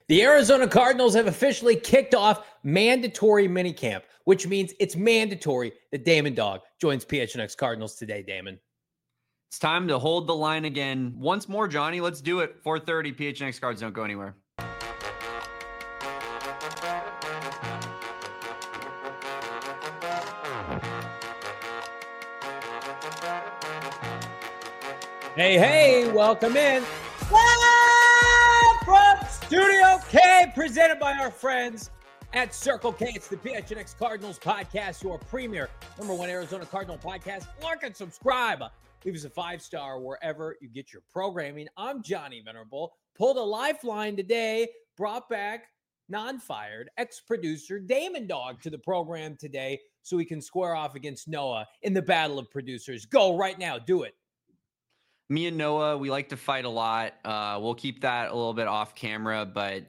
The Arizona Cardinals have officially kicked off mandatory minicamp, which means it's mandatory that Damon Dog joins PHNX Cardinals today, Damon. It's time to hold the line again. Once more, Johnny. Let's do it. 4:30, PHNX Cards. Don't go anywhere. Hey, welcome in. Live from Studio K, presented by our friends at Circle K. It's the PHNX Cardinals podcast, your premier #1 Arizona Cardinal podcast. Like and subscribe. Leave us a 5-star wherever you get your programming. I'm Johnny Venerable. Pulled a lifeline today, brought back non-fired ex-producer Damon Dog to the program today so we can square off against Noah in the battle of producers. Go right now. Do it. Me and Noah, we like to fight a lot. We'll keep that a little bit off camera, but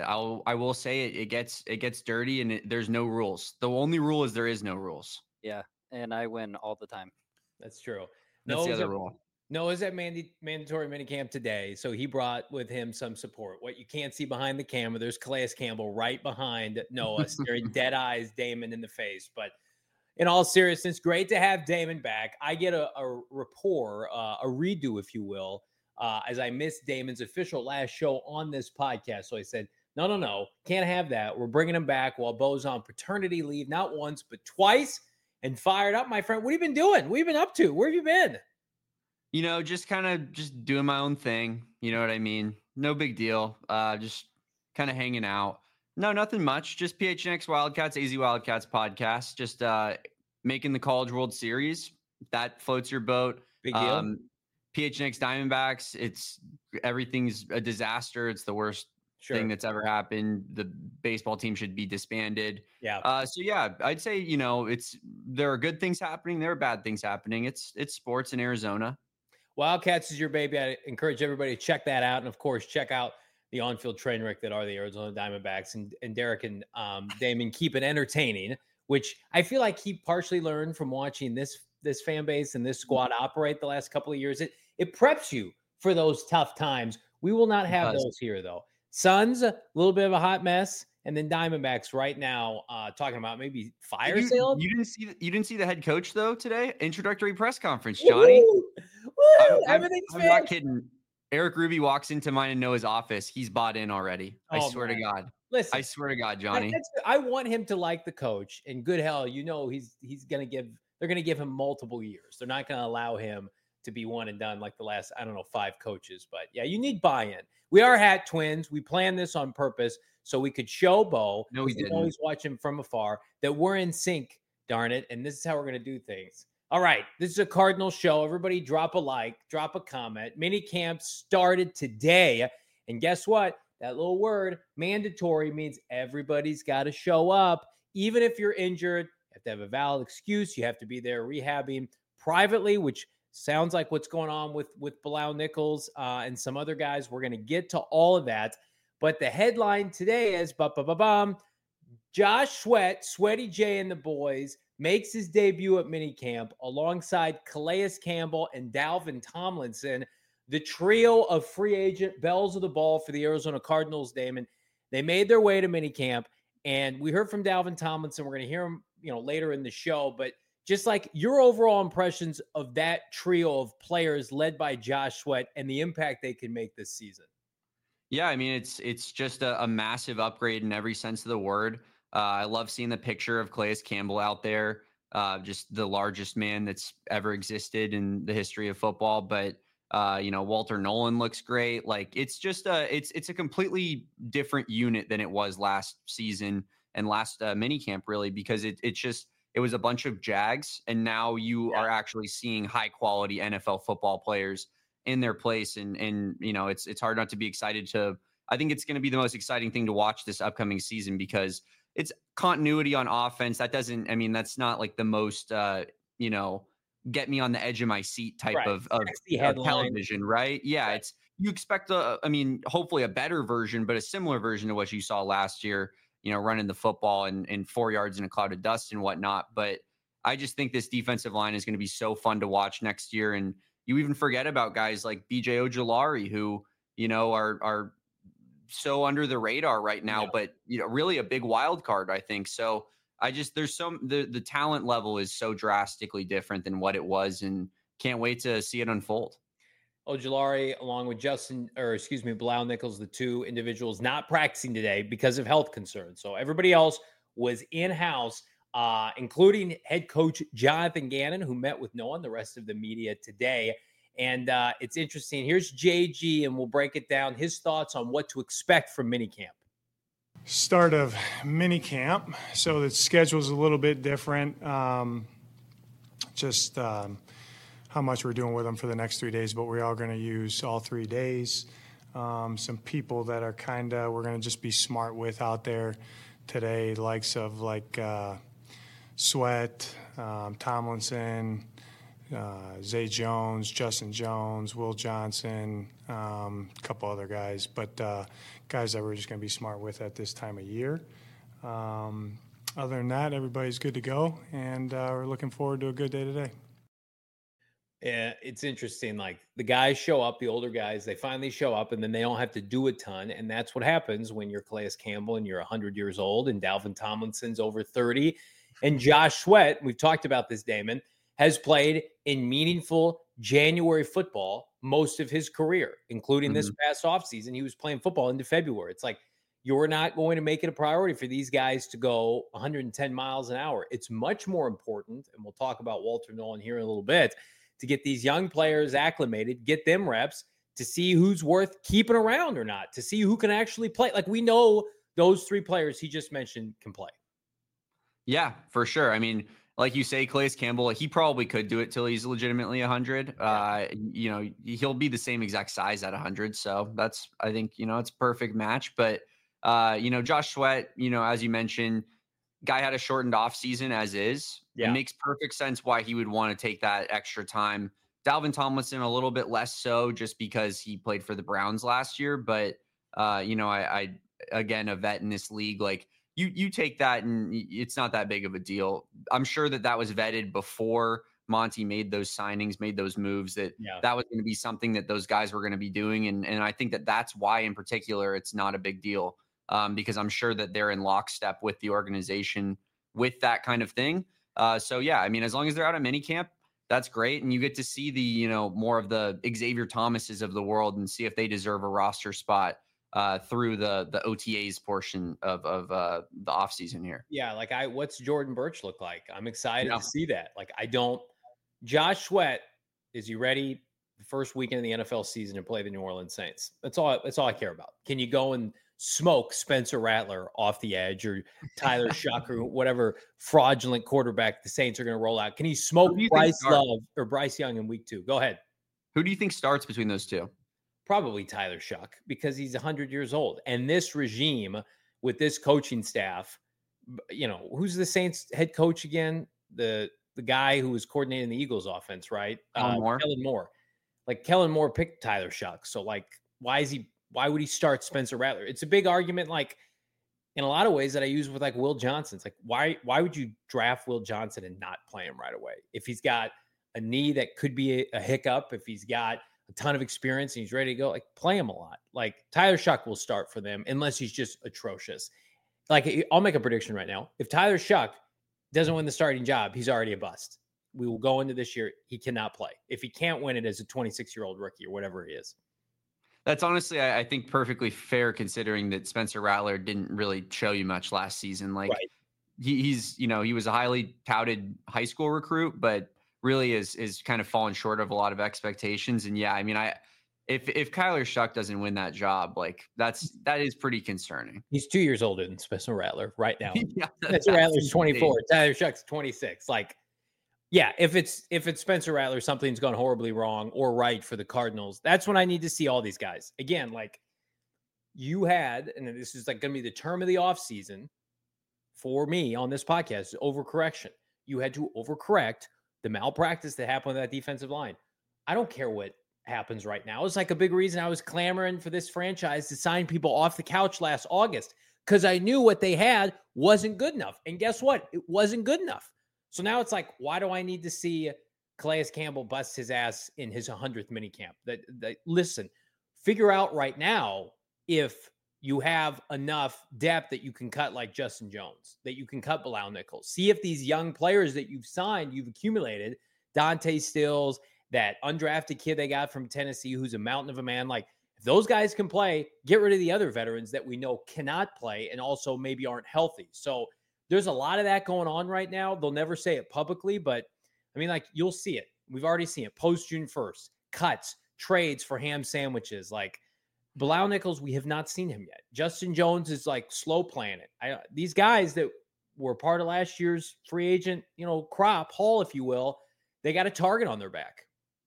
I will say it gets dirty and there's no rules. The only rule is there is no rules. Yeah, and I win all the time. That's true. That's the other rule. Noah's at mandatory minicamp today, so he brought with him some support. What you can't see behind the camera, there's Calais Campbell right behind Noah, staring dead eyes Damon in the face. But in all seriousness, great to have Damon back. I get a rapport, a redo, if you will, as I missed Damon's official last show on this podcast. So I said, no, can't have that. We're bringing him back while Bo's on paternity leave, not once, but twice, and fired up, my friend. What have you been doing? What have you been up to? Where have you been? You know, just doing my own thing. You know what I mean? No big deal. Just kind of hanging out. No, nothing much. Just PHNX Wildcats, AZ Wildcats podcast. Just making the College World Series. That floats your boat. Big deal. PHNX Diamondbacks. Everything's a disaster. It's the worst thing that's ever happened. The baseball team should be disbanded. Yeah. So yeah, I'd say there are good things happening. There are bad things happening. It's sports in Arizona. Wildcats is your baby. I encourage everybody to check that out, and of course, check out the on-field train wreck that are the Arizona Diamondbacks, and Derek and Damon keep it entertaining, which I feel like he partially learned from watching this fan base and this squad operate the last couple of years. It preps you for those tough times. We will not have those here, though. Suns, a little bit of a hot mess, and then Diamondbacks right now talking about maybe fire sale. You didn't see the head coach though today? Introductory press conference, Johnny. Woo! Everything's I'm not kidding. Eric Ruby walks into mine and Noah's office. He's bought in already. I swear to God. Listen, I swear to God, Johnny. I want him to like the coach. And good hell, he's gonna give. They're gonna give him multiple years. They're not gonna allow him to be one and done like the last 5 coaches. But yeah, you need buy-in. We are Hat Twins. We planned this on purpose so we could show Bo. No, we didn't. Always watch him from afar. That we're in sync. Darn it! And this is how we're gonna do things. All right, this is a Cardinal show. Everybody drop a like, drop a comment. Mini camp started today. And guess what? That little word, mandatory, means everybody's got to show up. Even if you're injured, you have to have a valid excuse. You have to be there rehabbing privately, which sounds like what's going on with Bilal Nichols and some other guys. We're going to get to all of that. But the headline today is, Josh Sweat, Sweaty J and the boys, makes his debut at minicamp alongside Calais Campbell and Dalvin Tomlinson, the trio of free agent bells of the ball for the Arizona Cardinals, Damon. They made their way to minicamp, and we heard from Dalvin Tomlinson. We're going to hear him, later in the show, but just like your overall impressions of that trio of players led by Josh Sweat and the impact they can make this season. Yeah, I mean, it's just a massive upgrade in every sense of the word. I love seeing the picture of Calais Campbell out there, just the largest man that's ever existed in the history of football. But, Walter Nolan looks great. Like, it's just it's a completely different unit than it was last season and last minicamp, really, because it was a bunch of Jags. And now you are actually seeing high quality NFL football players in their place. And it's hard not to be excited I think it's going to be the most exciting thing to watch this upcoming season because it's continuity on offense. That's not like the most, get me on the edge of my seat type of television, right? Yeah. Right. You expect hopefully a better version, but a similar version to what you saw last year, running the football and 4 yards in a cloud of dust and whatnot. But I just think this defensive line is going to be so fun to watch next year. And you even forget about guys like BJ Ojulari, who, are so under the radar right now, Yeah. but really a big wild card, I think. So there's the talent level is so drastically different than what it was, and can't wait to see it unfold. Ojulari, along with Bilal Nichols, the two individuals not practicing today because of health concerns. So everybody else was in-house, including head coach Jonathan Gannon, who met with no one, the rest of the media today. And it's interesting. Here's JG, and we'll break it down. His thoughts on what to expect from minicamp. Start of minicamp. So the schedule's a little bit different. How much we're doing with them for the next 3 days, but we are going to use all 3 days. Some people that are we're going to just be smart with out there today, likes of Sweat, Tomlinson, Zay Jones, Justin Jones, Will Johnson, a couple other guys, but guys that we're just going to be smart with at this time of year. Other than that, everybody's good to go, and we're looking forward to a good day today. Yeah, it's interesting. Like the guys show up, the older guys, they finally show up, and then they don't have to do a ton. And that's what happens when you're Calais Campbell and you're 100 years old, and Dalvin Tomlinson's over 30. And Josh Sweat, we've talked about this, Damon, has played in meaningful January football most of his career, including this past offseason. He was playing football into February. It's like you're not going to make it a priority for these guys to go 110 miles an hour. It's much more important, and we'll talk about Walter Nolen here in a little bit, to get these young players acclimated, get them reps, to see who's worth keeping around or not, to see who can actually play. Like we know those three players he just mentioned can play. Yeah, for sure. I mean, like you say, Calais Campbell, he probably could do it till he's legitimately 100. He'll be the same exact size at 100. So I think, it's a perfect match. But, Josh Sweat, as you mentioned, guy had a shortened off season as is. Yeah. It makes perfect sense why he would want to take that extra time. Dalvin Tomlinson, a little bit less so just because he played for the Browns last year. But, I again, a vet in this league, like you take that and it's not that big of a deal. I'm sure that was vetted before Monty made those signings, made those moves, that was going to be something that those guys were going to be doing. And I think that's why in particular, it's not a big deal. Because I'm sure that they're in lockstep with the organization with that kind of thing. So yeah, I mean, as long as they're out of minicamp, that's great. And you get to see the, more of the Xavier Thomases of the world and see if they deserve a roster spot through the OTAs portion of the offseason here. Yeah. Like what's Jordan Birch look like? I'm excited to see that. Josh Sweat, is he ready the first weekend of the NFL season to play the New Orleans Saints? That's all I care about. Can you go and smoke Spencer Rattler off the edge, or Tyler Shuck, or whatever fraudulent quarterback the Saints are going to roll out? Can he smoke Bryce Love or Bryce Young in week 2? Go ahead. Who do you think starts between those two? Probably Tyler Shuck, because he's 100 years old. And this regime with this coaching staff, who's the Saints head coach again? The guy who was coordinating the Eagles offense, right? Kellen Moore. Like Kellen Moore picked Tyler Shuck. So why would he start Spencer Rattler? It's a big argument, like in a lot of ways, that I use with like Will Johnson. It's like, why would you draft Will Johnson and not play him right away? If he's got a knee that could be a hiccup, if he's got a ton of experience and he's ready to go, like play him a lot. Like Tyler Shuck will start for them unless he's just atrocious. Like I'll make a prediction right now. If Tyler Shuck doesn't win the starting job, he's already a bust. We will go into this year, he cannot play. If he can't win it as a 26-year-old rookie or whatever he is. That's honestly, I think, perfectly fair considering that Spencer Rattler didn't really show you much last season. Like he's, he was a highly touted high school recruit, but really is kind of fallen short of a lot of expectations. And yeah, I mean, if Kyler Shuck doesn't win that job, like that is pretty concerning. He's 2 years older than Spencer Rattler right now. Yeah, Spencer Rattler's 24. Tyler Shuck's 26. Like, yeah, if it's Spencer Rattler, something's gone horribly wrong or right for the Cardinals. That's when I need to see all these guys. Again, like you had, and this is like going to be the term of the offseason for me on this podcast, overcorrection. You had to overcorrect the malpractice that happened with that defensive line. I don't care what happens right now. It's like a big reason I was clamoring for this franchise to sign people off the couch last August, because I knew what they had wasn't good enough. And guess what? It wasn't good enough. So now it's like, why do I need to see Calais Campbell bust his ass in his 100th minicamp? Listen, figure out right now if you have enough depth that you can cut like Justin Jones, that you can cut Bilal Nichols. See if these young players that you've signed, you've accumulated, Dante Stills, that undrafted kid they got from Tennessee, who's a mountain of a man. Like, if those guys can play, get rid of the other veterans that we know cannot play and also maybe aren't healthy. So there's a lot of that going on right now. They'll never say it publicly, but I mean, like, you'll see it. We've already seen it post June 1st, cuts, trades for ham sandwiches. Like, Bilal Nichols, we have not seen him yet. Justin Jones is like slow playing it. These guys that were part of last year's free agent, crop haul, if you will, they got a target on their back.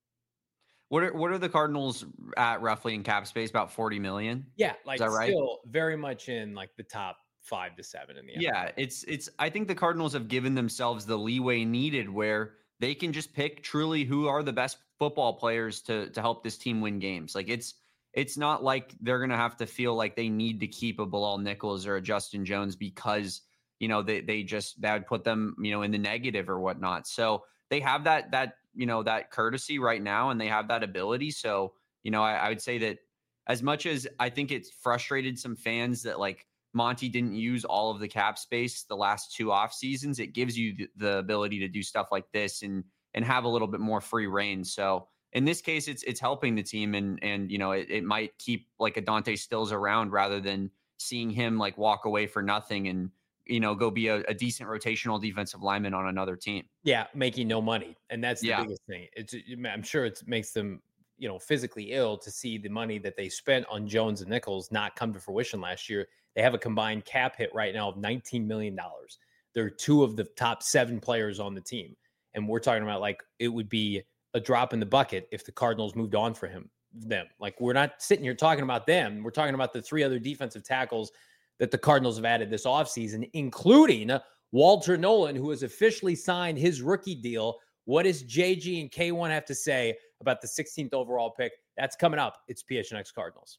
What are the Cardinals at roughly in cap space? About 40 million? Yeah, like, is that right? Still very much in like the top 5 to 7 in the NFL. Yeah, it's I think the Cardinals have given themselves the leeway needed where they can just pick truly who are the best football players to help this team win games. Like, it's not like they're going to have to feel like they need to keep a Bilal Nichols or a Justin Jones because, that would put them, in the negative or whatnot. So they have that courtesy right now, and they have that ability. So, I would say that as much as I think it's frustrated some fans that like Monty didn't use all of the cap space the last 2 off seasons, it gives you the ability to do stuff like this and have a little bit more free reign. So in this case, it's helping the team, and it might keep like a Dante Stills around rather than seeing him like walk away for nothing and go be a decent rotational defensive lineman on another team. Yeah, making no money, and that's the biggest thing. I'm sure it makes them physically ill to see the money that they spent on Jones and Nichols not come to fruition last year. They have a combined cap hit right now of $19 million. They're 2 of the top 7 players on the team, and we're talking about like it would be a drop in the bucket if the Cardinals moved on for them. Like, we're not sitting here talking about them. We're talking about the 3 other defensive tackles that the Cardinals have added this offseason, including Walter Nolan, who has officially signed his rookie deal. What does JG and K1 have to say about the 16th overall pick? That's coming up. It's PHNX Cardinals.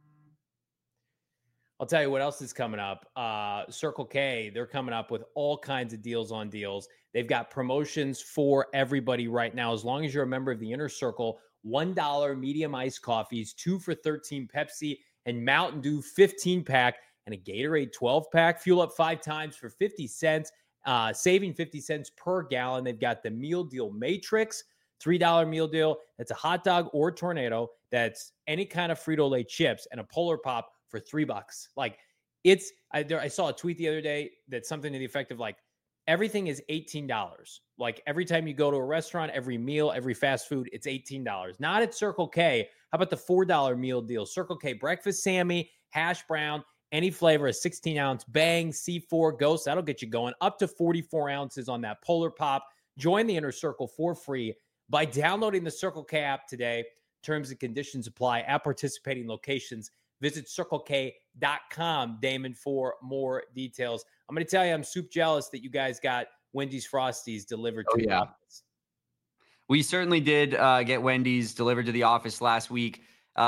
I'll tell you what else is coming up. Circle K, they're coming up with all kinds of deals on deals. They've got promotions for everybody right now. As long as you're a member of the Inner Circle, $1 medium iced coffees, 2 for $13 Pepsi, and Mountain Dew 15-pack, and a Gatorade 12-pack. Fuel up 5 times for 50 cents, saving 50 cents per gallon. They've got the Meal Deal Matrix, $3 meal deal. That's a hot dog or tornado. That's any kind of Frito-Lay chips and a Polar Pop for $3. Like, I saw a tweet the other day that's something to the effect of like, everything is $18. Like, every time you go to a restaurant, every meal, every fast food, it's $18. Not at Circle K. How about the $4 meal deal? Circle K breakfast Sammy, hash brown, any flavor, a 16-ounce Bang, C4, Ghost. That'll get you going. Up to 44 ounces on that Polar Pop. Join the Inner Circle for free by downloading the Circle K app today. Terms and conditions apply at participating locations. Visit CircleK.com, Damon, for more details. I'm going to tell you, I'm super jealous that you guys got Wendy's Frosties delivered to the office. We certainly did get Wendy's delivered to the office last week.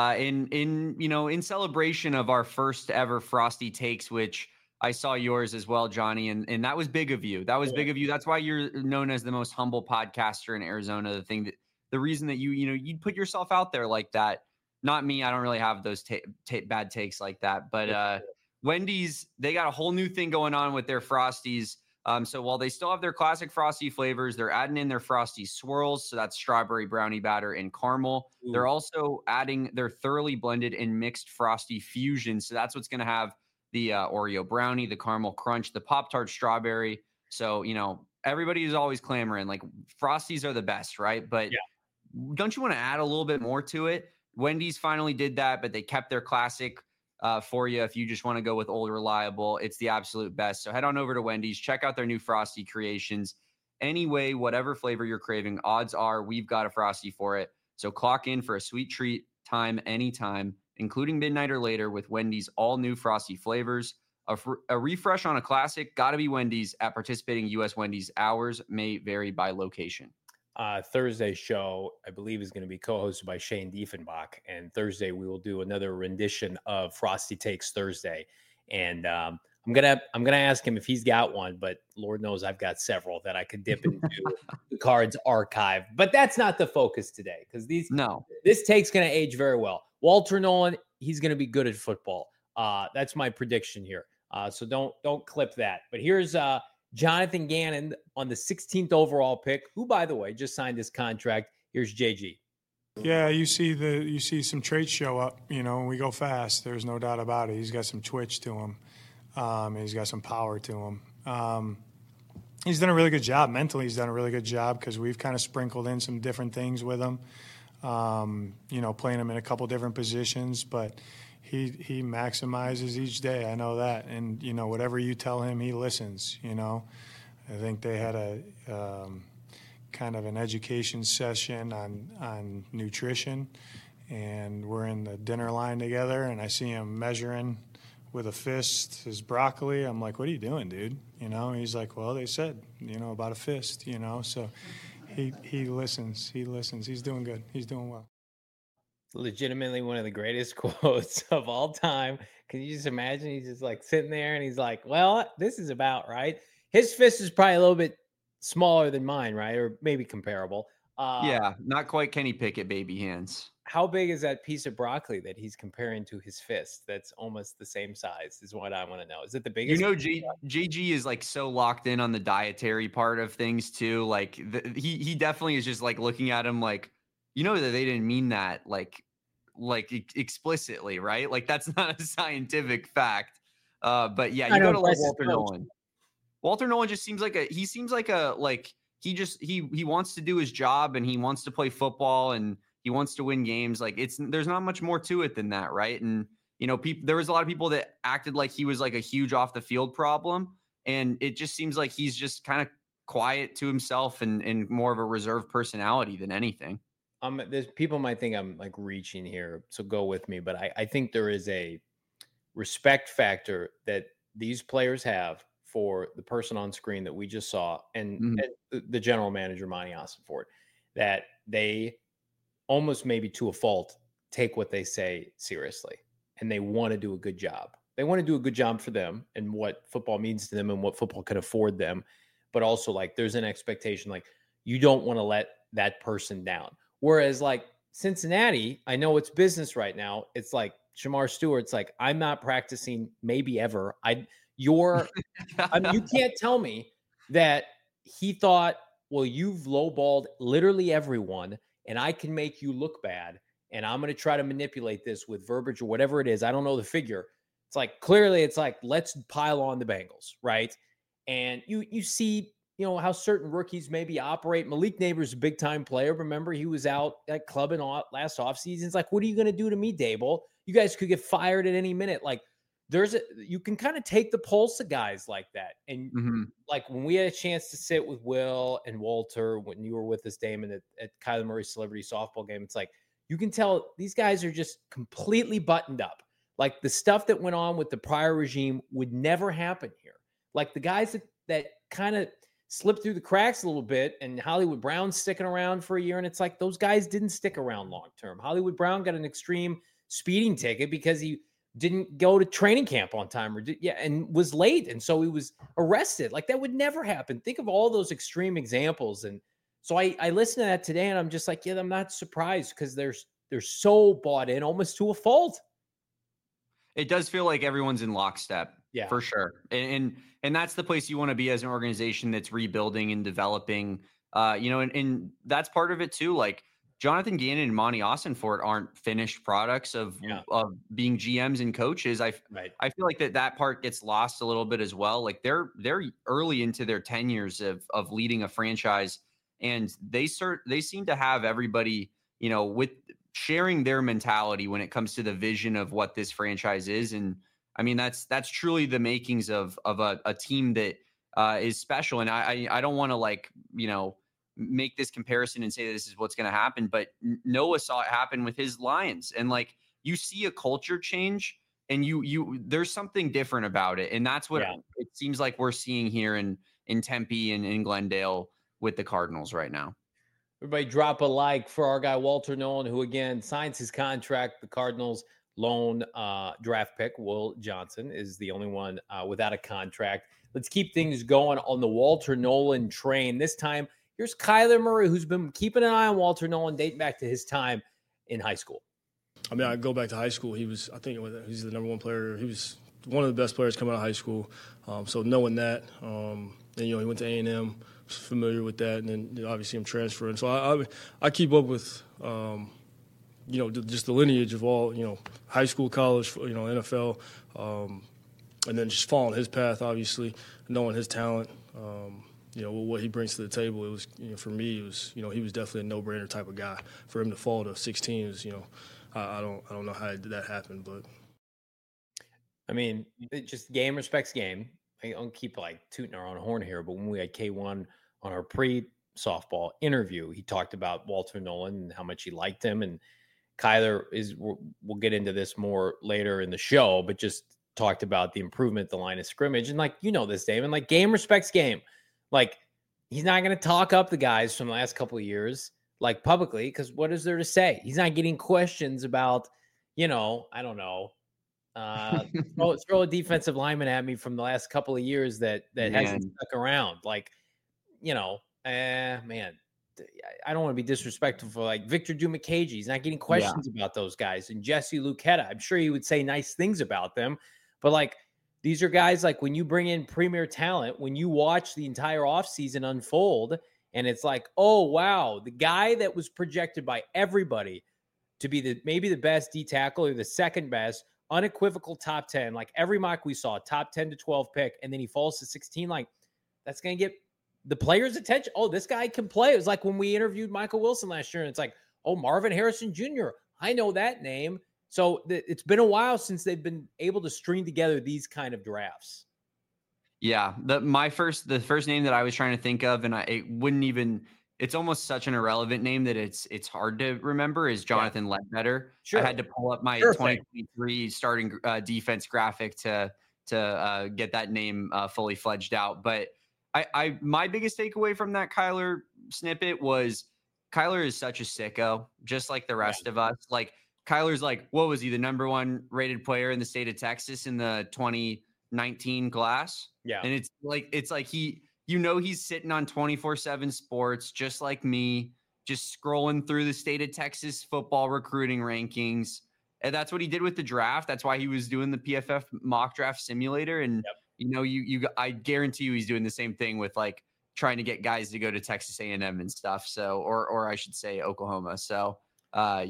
In celebration of our first ever Frosty Takes, which I saw yours as well, Johnny, and that was big of you. That was big of you. That's why you're known as the most humble podcaster in Arizona. The reason that you put yourself out there like that. Not me. I don't really have those bad takes like that. But Wendy's, they got a whole new thing going on with their Frosties. So while they still have their classic Frosty flavors, they're adding in their Frosty Swirls. So that's strawberry, brownie batter, and caramel. Ooh. They're also adding their thoroughly blended and mixed Frosty Fusion. So that's what's going to have the Oreo brownie, the caramel crunch, the Pop-Tart strawberry. So, everybody is always clamoring like Frosties are the best, right? But don't you want to add a little bit more to it? Wendy's finally did that, but they kept their classic for you. If you just want to go with old reliable, it's the absolute best. So head on over to Wendy's, check out their new Frosty creations. Anyway, whatever flavor you're craving, odds are we've got a Frosty for it. So clock in for a sweet treat time anytime, including midnight or later with Wendy's all new Frosty flavors. A refresh on a classic, gotta be Wendy's at participating U.S. Wendy's. Hours may vary by location. Thursday's show, I believe, is going to be co-hosted by Shane Diefenbach. And Thursday, we will do another rendition of Frosty Takes Thursday. And I'm gonna ask him if he's got one, but Lord knows I've got several that I could dip into the Cards archive. But that's not the focus today, because this take's going to age very well. Walter Nolan, he's going to be good at football. That's my prediction here. So don't clip that. But here's Jonathan Gannon on the 16th overall pick, who, by the way, just signed his contract. Here's JG. Yeah, you see some traits show up. When we go fast, there's no doubt about it. He's got some twitch to him. He's got some power to him. He's done a really good job mentally. He's done a really good job because we've kind of sprinkled in some different things with him. Playing him in a couple different positions, but he maximizes each day. I know that, and whatever you tell him, he listens. I think they had a kind of an education session on nutrition, and we're in the dinner line together, and I see him measuring with a fist his broccoli. I'm like, what are you doing, dude? He's like, well, they said, about a fist, so he listens. He's doing good. He's doing well. Legitimately one of the greatest quotes of all time. Can you just imagine? He's just like sitting there and he's like, well, this is about right. His fist is probably a little bit smaller than mine, right? Or maybe comparable. Yeah, not quite Kenny Pickett baby hands. How big is that piece of broccoli that he's comparing to his fist? That's almost the same size is what I want to know. Is it the biggest? JG is like so locked in on the dietary part of things too. Like he definitely is just like looking at him like, that they didn't mean that like explicitly, right? Like that's not a scientific fact. But yeah, you go to like Walter Nolen. Walter Nolen just seems like he wants to do his job and he wants to play football and he wants to win games. Like there's not much more to it than that, right? And there was a lot of people that acted like he was like a huge off the field problem, and it just seems like he's just kind of quiet to himself and more of a reserved personality than anything. There's people might think I'm like reaching here, so go with me, but I think there is a respect factor that these players have for the person on screen that we just saw and the general manager, Monty Ossenfort, that they almost maybe to a fault take what they say seriously, and they want to do a good job. They want to do a good job for them and what football means to them and what football can afford them. But also like there's an expectation, like you don't want to let that person down. Whereas like Cincinnati, I know it's business right now. It's like Shamar Stewart's like, I'm not practicing maybe ever. You can't tell me that he thought, well, you've lowballed literally everyone and I can make you look bad. And I'm going to try to manipulate this with verbiage or whatever it is. I don't know the figure. It's like, clearly it's like, let's pile on the Bengals. Right. And you see, how certain rookies maybe operate. Malik Neighbors, a big time player. Remember, he was out at clubbing last offseason. It's like, what are you going to do to me, Dable? You guys could get fired at any minute. Like, you can kind of take the pulse of guys like that. And like when we had a chance to sit with Will and Walter, when you were with us, Damon, at Kyler Murray's celebrity softball game, it's like, you can tell these guys are just completely buttoned up. Like the stuff that went on with the prior regime would never happen here. Like the guys that kind of slipped through the cracks a little bit, and Hollywood Brown's sticking around for a year. And it's like, those guys didn't stick around long-term. Hollywood Brown got an extreme speeding ticket because he didn't go to training camp on time and was late. And so he was arrested. Like that would never happen. Think of all those extreme examples. And so I listened to that today and I'm just like, yeah, I'm not surprised because they're so bought in almost to a fault. It does feel like everyone's in lockstep. Yeah, for sure. And that's the place you want to be as an organization that's rebuilding and developing, and that's part of it too. Like Jonathan Gannon and Monty Ossenfort aren't finished products of being GMs and coaches. I feel like that part gets lost a little bit as well. Like they're early into their tenures of leading a franchise, and they seem to have everybody, with sharing their mentality when it comes to the vision of what this franchise is. And I mean, that's truly the makings of a team that is special. And I don't want to make this comparison and say this is what's going to happen, but Noah saw it happen with his Lions, and like you see a culture change and there's something different about it. And that's what it seems like we're seeing here in Tempe and in Glendale with the Cardinals right now. Everybody drop a like for our guy, Walter Nolen, who again signs his contract. The Cardinals lone draft pick, Will Johnson, is the only one without a contract. Let's keep things going on the Walter Nolen train. This time, here's Kyler Murray, who's been keeping an eye on Walter Nolen dating back to his time in high school. I mean, I go back to high school. He's the number one player. He was one of the best players coming out of high school. So knowing that, and he went to A&M, was familiar with that, and then obviously him transferring. So I keep up with, just the lineage of all, high school, college, NFL, and then just following his path, obviously, knowing his talent. What he brings to the table, it was, for me, it was, he was definitely a no-brainer type of guy. For him to fall to 16 is, I don't know how that happened, but. I mean, it just game respects game. I don't keep tooting our own horn here, but when we had K1 on our pre-softball interview, he talked about Walter Nolan and how much he liked him. And Kyler we'll get into this more later in the show, but just talked about the improvement at the line of scrimmage. And this, Damon, game respects game. He's not going to talk up the guys from the last couple of years, publicly, because what is there to say? He's not getting questions about, I don't know, throw a defensive lineman at me from the last couple of years that hasn't stuck around. Man, I don't want to be disrespectful for Victor Dumakagi. He's not getting questions about those guys. And Jesse Luketa, I'm sure he would say nice things about them, but these are guys when when you bring in premier talent, when you watch the entire offseason unfold, and it's oh, wow, the guy that was projected by everybody to be maybe the best D tackle or the second best, unequivocal top 10, every mock we saw, top 10 to 12 pick, and then he falls to 16, that's going to get the players' attention. Oh, this guy can play. It was when we interviewed Michael Wilson last year, and it's oh, Marvin Harrison Jr., I know that name. So it's been a while since they've been able to string together these kind of drafts. Yeah, the first name that I was trying to think of, and it's almost such an irrelevant name that it's hard to remember, is Jonathan Ledbetter. Sure. I had to pull up my 2023 starting defense graphic to get that name fully fledged out. But my biggest takeaway from that Kyler snippet was Kyler is such a sicko, just like the rest of us. Kyler's what was he, the number one rated player in the state of Texas in the 2019 class? Yeah. And it's he, he's sitting on 24/7 sports, just like me, just scrolling through the state of Texas football recruiting rankings. And that's what he did with the draft. That's why he was doing the PFF mock draft simulator. And, I guarantee you he's doing the same thing with trying to get guys to go to Texas A&M and stuff. So, or I should say Oklahoma. So, I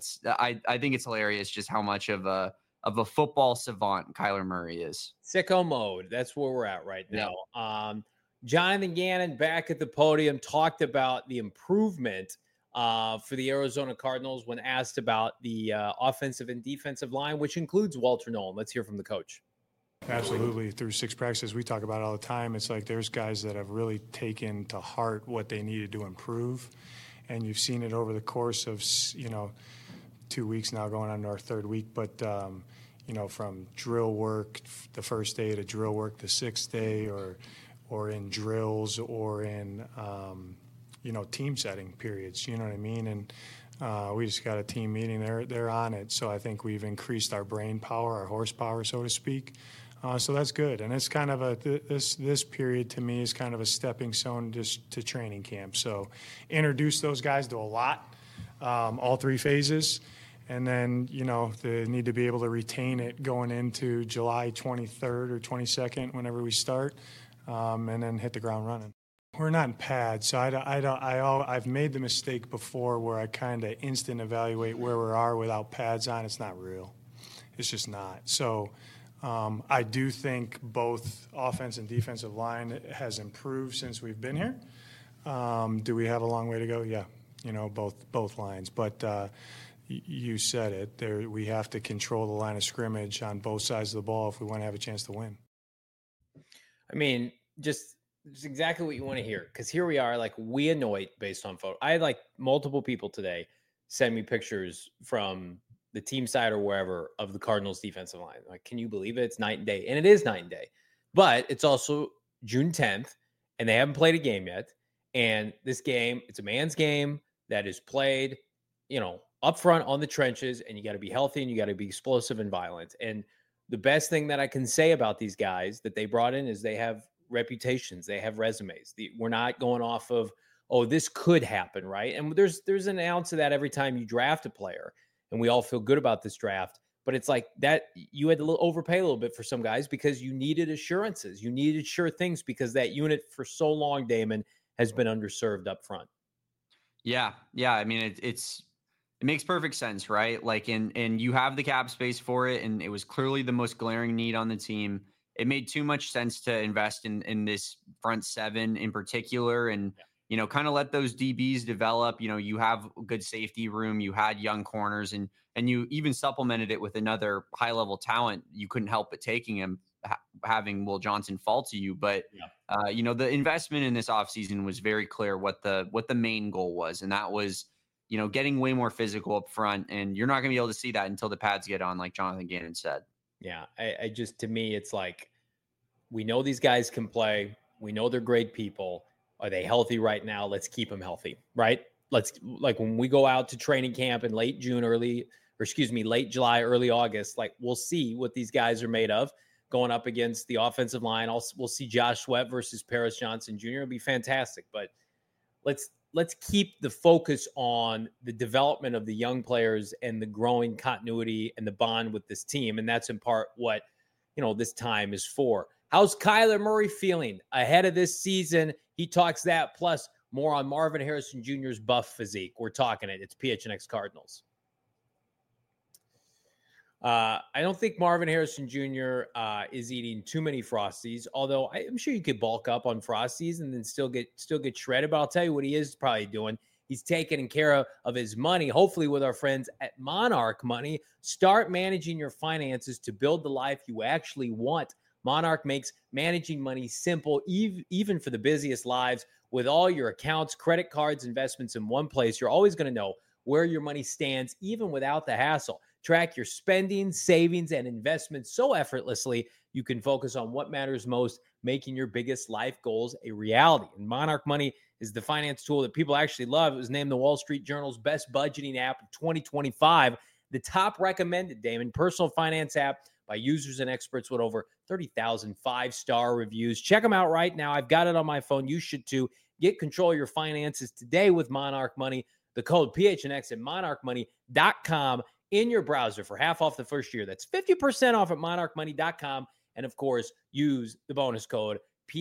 think it's hilarious just how much of a football savant Kyler Murray is. Sicko mode. That's where we're at right now. Yeah. Jonathan Gannon back at the podium talked about the improvement for the Arizona Cardinals when asked about the offensive and defensive line, which includes Walter Nolan. Let's hear from the coach. Absolutely. Through 6 practices, we talk about it all the time. It's there's guys that have really taken to heart what they needed to improve. And you've seen it over the course of, 2 weeks now, going on to our 3rd week. But, from drill work the first day to drill work the 6th day, or in drills, or in, team setting periods, you know what I mean? And we just got a team meeting. They're on it. So I think we've increased our brain power, our horsepower, so to speak. So that's good. And it's kind of this period to me is kind of a stepping stone just to training camp. So introduce those guys to a lot, all 3 phases. And then, they need to be able to retain it going into July 23rd or 22nd, whenever we start, and then hit the ground running. We're not in pads, so I've made the mistake before where I kind of instant evaluate where we are without pads on. It's not real. It's just not. So I do think both offense and defensive line has improved since we've been here. Do we have a long way to go? Yeah, both lines. But you said it. We have to control the line of scrimmage on both sides of the ball if we want to have a chance to win. I mean, just exactly what you want to hear, because here we are, we annoyed based on photo. I had multiple people today send me pictures from the team side or wherever of the Cardinals defensive line. Can you believe it? It's night and day. And it is night and day. But it's also June 10th, and they haven't played a game yet. And this game, it's a man's game that is played, up front on the trenches, and you got to be healthy and you got to be explosive and violent. And the best thing that I can say about these guys that they brought in is they have reputations, they have resumes. We're not going off of, oh, this could happen, right? And there's an ounce of that every time you draft a player. and we all feel good about this draft. But it's like that you had to overpay a little bit for some guys because you needed assurances. You needed sure things because that unit for so long, Damon, has been underserved up front. Yeah. I mean, it makes perfect sense, right? Like, and you have the cap space for it, and it was clearly the most glaring need on the team. It made too much sense to invest in this front seven in particular, and kind of let those DBs develop. You have good safety room. You had young corners, and you even supplemented it with another high level talent. You couldn't help but taking him, having Will Johnson fall to you. But the investment in this offseason was very clear what the main goal was, and that was getting way more physical up front. And you're not going to be able to see that until the pads get on, like Jonathan Gannon said. Yeah, I just, to me, it's like, we know these guys can play. We know they're great people. Are they healthy right now? Let's keep them healthy, right? Like when we go out to training camp in late July, early August, like we'll see what these guys are made of going up against the offensive line. We'll see Josh Sweat versus Paris Johnson Jr. It'll be fantastic, but let's keep the focus on the development of the young players and the growing continuity and the bond with this team. And that's in part what, this time is for. How's Kyler Murray feeling ahead of this season? He talks that, plus more on Marvin Harrison Jr.'s buff physique. We're talking it. It's PHNX Cardinals. I don't think Marvin Harrison Jr. Is eating too many Frosties, although I'm sure you could bulk up on Frosties and then still get shredded. But I'll tell you what he is probably doing. He's taking care of his money, hopefully with our friends at Monarch Money. Start managing your finances to build the life you actually want. Monarch makes managing money simple, even for the busiest lives. With all your accounts, credit cards, investments in one place, you're always going to know where your money stands, even without the hassle. Track your spending, savings, and investments so effortlessly you can focus on what matters most, making your biggest life goals a reality. And Monarch Money is the finance tool that people actually love. It was named the Wall Street Journal's best budgeting app of 2025. The top recommended, Damon, personal finance app by users and experts with over 30,000 five-star reviews. Check them out right now. I've got it on my phone. You should too. Get control of your finances today with Monarch Money. The code PHNX at monarchmoney.com in your browser for half off the first year. That's 50% off at monarchmoney.com. And of course, use the bonus code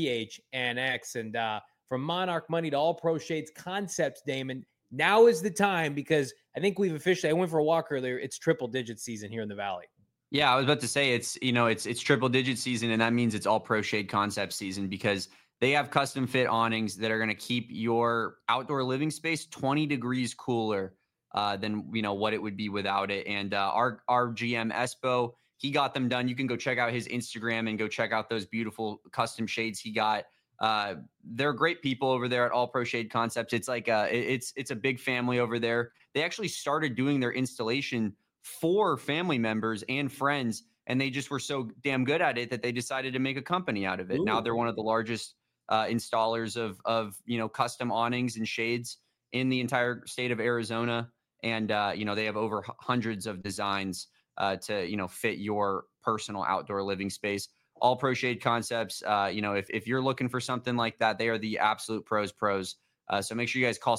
PHNX. And from Monarch Money to All Pro Shades Concepts, Damon, now is the time, because I think we've officially, I went for a walk earlier, it's triple digit season here in the Valley. Yeah, I was about to say it's triple digit season, and that means it's All Pro Shade Concept season, because they have custom fit awnings that are going to keep your outdoor living space 20 degrees cooler than what it would be without it. And our GM Espo, he got them done. You can go check out his Instagram and go check out those beautiful custom shades he got. They're great people over there at All Pro Shade Concepts. It's like it's a big family over there. They actually started doing their installation for family members and friends, and they just were so damn good at it that they decided to make a company out of it. Ooh. Now they're one of the largest installers of custom awnings and shades in the entire state of Arizona. And they have over hundreds of designs to fit your personal outdoor living space. All Pro Shade Concepts, if you're looking for something like that, they are the absolute pros. So make sure you guys call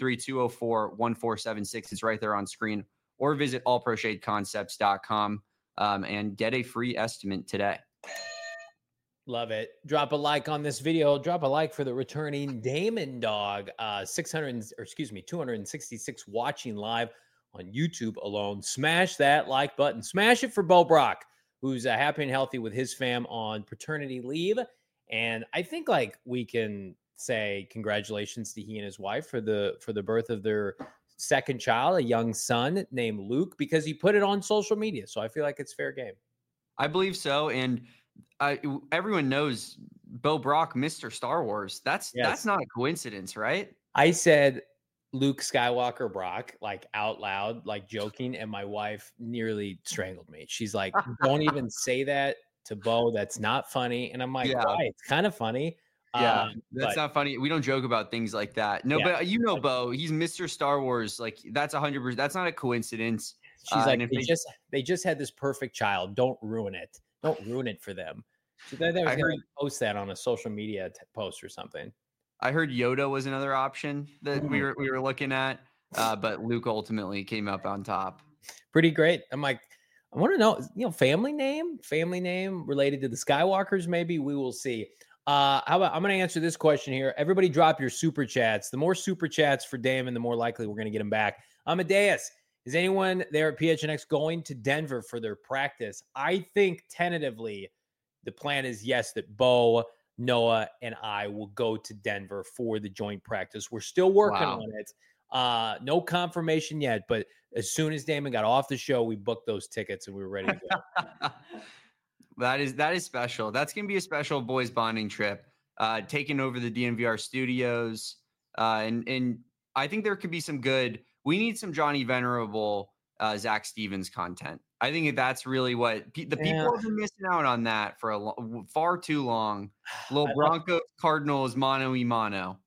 623-204-1476. It's right there on screen. Or visit allproshadeconcepts.com and get a free estimate today. Love it. Drop a like on this video. Drop a like for the returning Damon Dog. 266 watching live on YouTube alone. Smash that like button. Smash it for Bo Brock, who's happy and healthy with his fam on paternity leave. And I think we can say congratulations to he and his wife for the birth of their second child, a young son named Luke, because he put it on social media. So I feel like it's fair game. I believe so. And everyone knows Bo Brock, Mr. Star Wars. That's not a coincidence, right? I said Luke Skywalker Brock, out loud, joking. And my wife nearly strangled me. She's like, don't even say that to Bo. That's not funny. And I'm like, why? It's kind of funny. Yeah, that's not funny. We don't joke about things like that. No, but Bo, he's Mr. Star Wars. That's 100%. That's not a coincidence. She's like, they just had this perfect child. Don't ruin it. Don't ruin it for them. So they was going to post that on a social media post or something. I heard Yoda was another option that we were looking at, but Luke ultimately came up on top. Pretty great. I'm like, I want to know, family name related to the Skywalkers. Maybe we will see. How about, I'm going to answer this question here. Everybody drop your super chats. The more super chats for Damon, the more likely we're going to get him back. Amadeus, is anyone there at PHNX going to Denver for their practice? I think tentatively the plan is yes, that Bo, Noah, and I will go to Denver for the joint practice. We're still working on it. No confirmation yet, but as soon as Damon got off the show, we booked those tickets and we were ready to go. That is special. That's going to be a special boys bonding trip, taking over the DNVR studios. And I think there could be some good, we need some Johnny Venerable, Zach Stevens content. I think that's really what the people have been missing out on that for far too long. Little Broncos, Cardinals, mano y mano.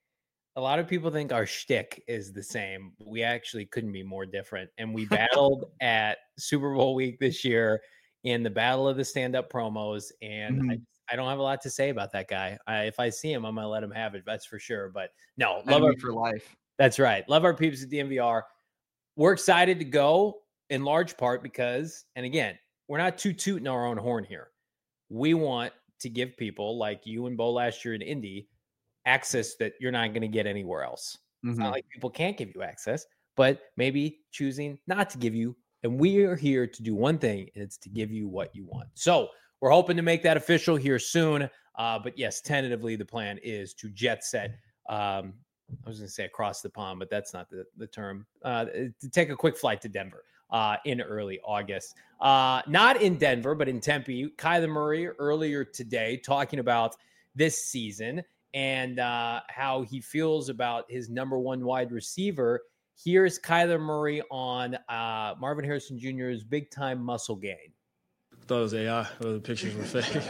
A lot of people think our shtick is the same. We actually couldn't be more different. And we battled at Super Bowl week this year in the battle of the stand-up promos. And I don't have a lot to say about that guy. If I see him, I'm going to let him have it. That's for sure. But no, love our for life. That's right. Love our peeps at DNVR. We're excited to go in large part because, and again, we're not tooting our own horn here. We want to give people like you and Bo last year in Indy access that you're not going to get anywhere else. It's not like people can't give you access, but maybe choosing not to give you. And we are here to do one thing, and it's to give you what you want. So we're hoping to make that official here soon. But yes, tentatively, the plan is to jet set. I was going to say across the pond, but that's not the term. To take a quick flight to Denver in early August. Not in Denver, but in Tempe. Kyler Murray earlier today talking about this season and how he feels about his number one wide receiver. Here's Kyler Murray on Marvin Harrison Jr.'s big-time muscle gain. I thought it was AI. The pictures were fake.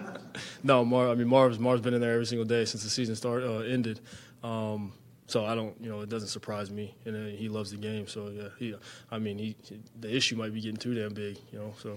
No, Marv's been in there every single day since the season ended. So I don't, it doesn't surprise me. And he loves the game. So yeah, the issue might be getting too damn big, so.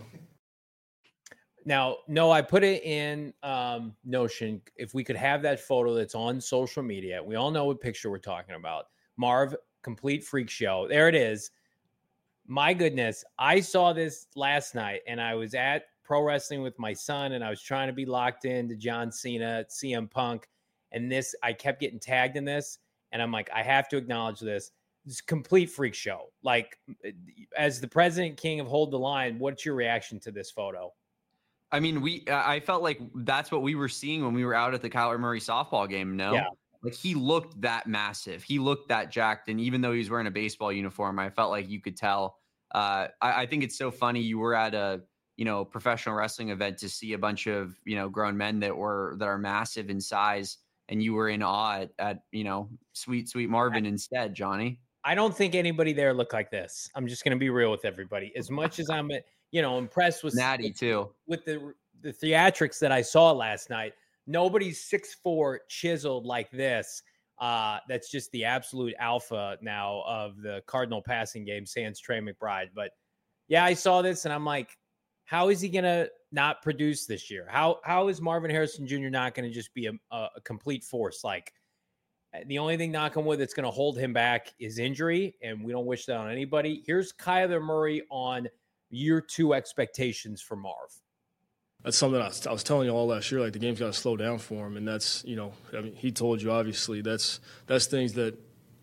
Now, no, I put it in Notion. If we could have that photo that's on social media, we all know what picture we're talking about. Marv, complete freak show. There it is. My goodness, I saw this last night, and I was at pro wrestling with my son, and I was trying to be locked into John Cena, CM Punk, and I kept getting tagged in this, and I'm like, I have to acknowledge this. It's a complete freak show. Like, as the president king of Hold the Line, what's your reaction to this photo? I mean, I felt like that's what we were seeing when we were out at the Kyler Murray softball game. No, yeah. Like he looked that massive. He looked that jacked. And even though he was wearing a baseball uniform, I felt like you could tell. I think it's so funny. You were at a, professional wrestling event to see a bunch of, grown men that are massive in size. And you were in awe at sweet Marvin instead, Johnny. I don't think anybody there looked like this. I'm just going to be real with everybody. As much as I'm, impressed with Natty too, with the theatrics that I saw last night, nobody's 6'4" chiseled like this. That's just the absolute alpha now of the Cardinal passing game, sans Trey McBride. But yeah, I saw this and I'm like, how is he going to not produce this year? How is Marvin Harrison Jr. not going to just be a complete force? Like, the only thing, knock on wood, that's going to hold him back is injury, and we don't wish that on anybody. Here's Kyler Murray on year 2 expectations for Marv. That's something I was telling you all last year. Like, the game's got to slow down for him, and that's he told you, obviously that's things that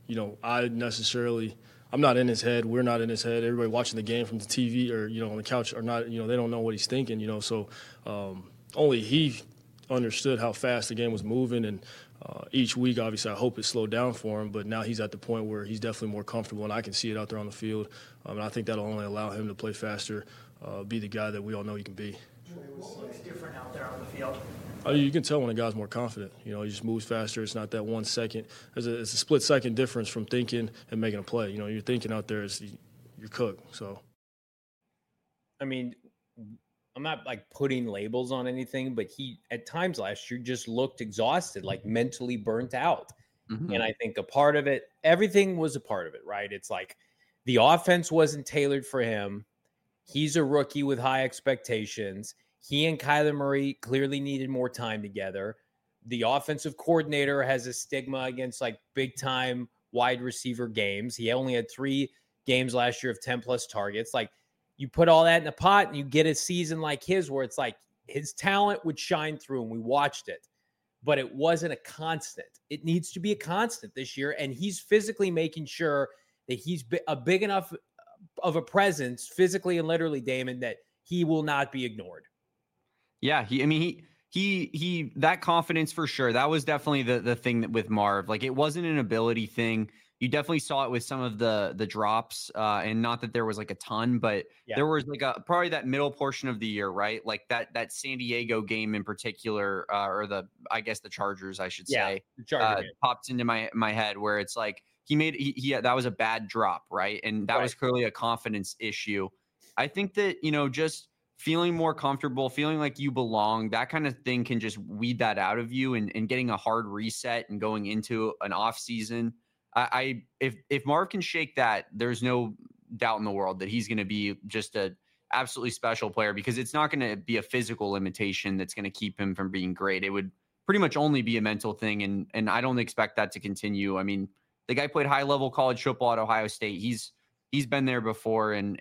I'm not in his head. We're not in his head. Everybody watching the game from the TV or on the couch are not. They don't know what he's thinking. So only he understood how fast the game was moving, and each week, obviously, I hope it slowed down for him. But now he's at the point where he's definitely more comfortable, and I can see it out there on the field. And I think that'll only allow him to play faster, be the guy that we all know he can be. What looks different out there on the field? You can tell when a guy's more confident. He just moves faster. It's not that 1 second. It's a split second difference from thinking and making a play. You're thinking out there is you're cooked. So, I mean, I'm not like putting labels on anything, but he at times last year just looked exhausted, like mentally burnt out. Mm-hmm. And I think a part of it, everything was a part of it, right? It's like the offense wasn't tailored for him. He's a rookie with high expectations. He and Kyler Murray clearly needed more time together. The offensive coordinator has a stigma against like big time wide receiver games. He only had 3 games last year of 10 plus targets. Like, you put all that in a pot and you get a season like his where it's like his talent would shine through, and we watched it, but it wasn't a constant. It needs to be a constant this year, and he's physically making sure that he's a big enough of a presence physically and literally, Damon, that he will not be ignored. Yeah, he that confidence for sure. That was definitely the thing that with Marv, like, it wasn't an ability thing. You definitely saw it with some of the drops, and not that there was like a ton, but there was like probably that middle portion of the year, right? Like that San Diego game in particular, or I guess the Chargers, I should say, pops into my head, where it's like he that was a bad drop, right? And that was clearly a confidence issue. I think that, just feeling more comfortable, feeling like you belong, that kind of thing can just weed that out of you, and getting a hard reset and going into an off season. If Marv can shake that, there's no doubt in the world that he's going to be just a absolutely special player, because it's not going to be a physical limitation that's going to keep him from being great. It would pretty much only be a mental thing. And I don't expect that to continue. I mean, the guy played high level college football at Ohio State. He's been there before. And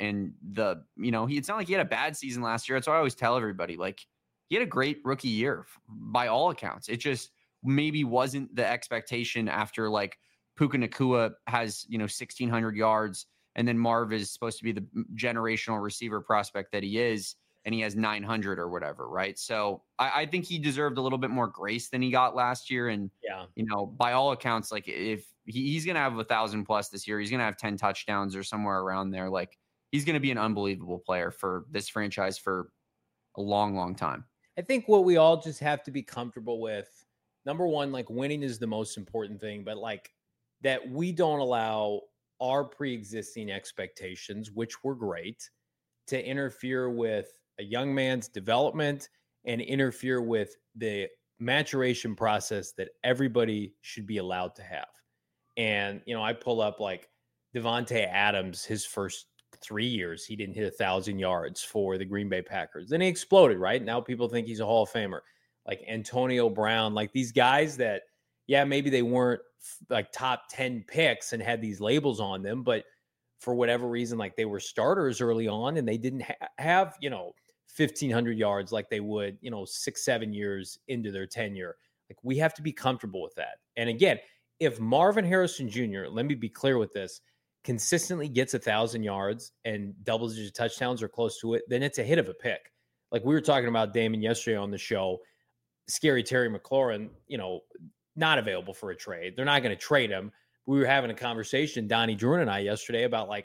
it's not like he had a bad season last year. That's what I always tell everybody. Like, he had a great rookie year by all accounts. It just maybe wasn't the expectation after, like, Puka Nacua has, 1,600 yards, and then Marv is supposed to be the generational receiver prospect that he is, and he has 900 or whatever, right? So I think he deserved a little bit more grace than he got last year. And, by all accounts, like, if he's going to have 1,000 plus this year, he's going to have 10 touchdowns or somewhere around there. Like, he's going to be an unbelievable player for this franchise for a long, long time. I think what we all just have to be comfortable with, number one, like, winning is the most important thing, but like, that we don't allow our pre-existing expectations, which were great, to interfere with a young man's development and interfere with the maturation process that everybody should be allowed to have. And, I pull up like Devontae Adams, his first 3 years, he didn't hit 1,000 yards for the Green Bay Packers. Then he exploded, right? Now people think he's a Hall of Famer. Like Antonio Brown, like these guys that, maybe they weren't like top 10 picks and had these labels on them, but for whatever reason, like, they were starters early on and they didn't have, 1,500 yards like they would, 6-7 years into their tenure. Like, we have to be comfortable with that. And again, if Marvin Harrison Jr., let me be clear with this, consistently gets 1,000 yards and double-digit touchdowns or close to it, then it's a hit of a pick. Like we were talking about Damon yesterday on the show, Scary Terry McLaurin, not available for a trade. They're not going to trade him. We were having a conversation, Donnie Druin and I, yesterday about, like,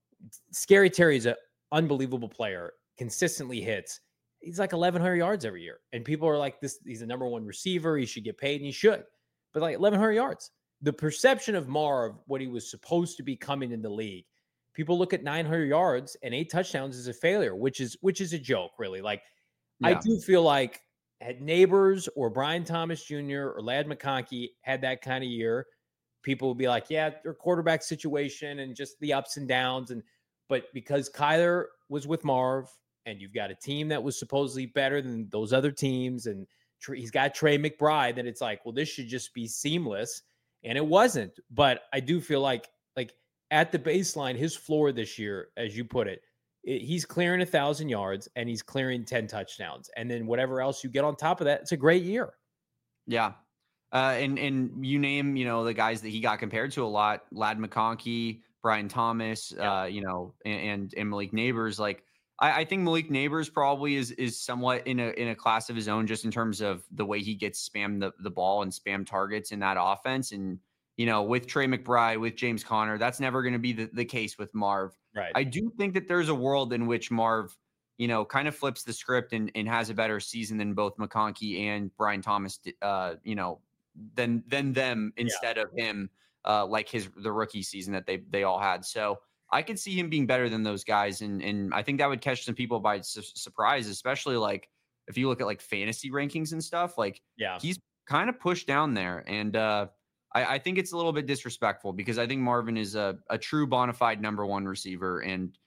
Scary Terry's an unbelievable player, consistently hits. He's like 1,100 yards every year. And people are like, he's the number one receiver. He should get paid, and he should. But like 1,100 yards. The perception of Marv, what he was supposed to be coming in the league, people look at 900 yards and 8 touchdowns as a failure, which is a joke, really. Like, I do feel like, had Neighbors or Brian Thomas Jr. or Ladd McConkey had that kind of year, people would be like, their quarterback situation and just the ups and downs. But because Kyler was with Marv, and you've got a team that was supposedly better than those other teams, and he's got Trey McBride, that it's like, well, this should just be seamless. And it wasn't. But I do feel like at the baseline, his floor this year, as you put it, he's clearing 1,000 yards and he's clearing 10 touchdowns. And then whatever else you get on top of that, it's a great year. Yeah. And you name, the guys that he got compared to a lot, Ladd McConkey, Brian Thomas, and Malik Neighbors. Like, I think Malik Neighbors probably is somewhat in a class of his own, just in terms of the way he gets spammed the ball and spam targets in that offense. And, with Trey McBride, with James Conner, that's never going to be the case with Marv. Right. I do think that there's a world in which Marv, kind of flips the script and has a better season than both McConkey and Brian Thomas, than them instead of him, like the rookie season that they all had. So I could see him being better than those guys. And I think that would catch some people by surprise, especially like if you look at like fantasy rankings and stuff, like he's kind of pushed down there. And I think it's a little bit disrespectful, because I think Marvin is a true bona fide number one receiver. And,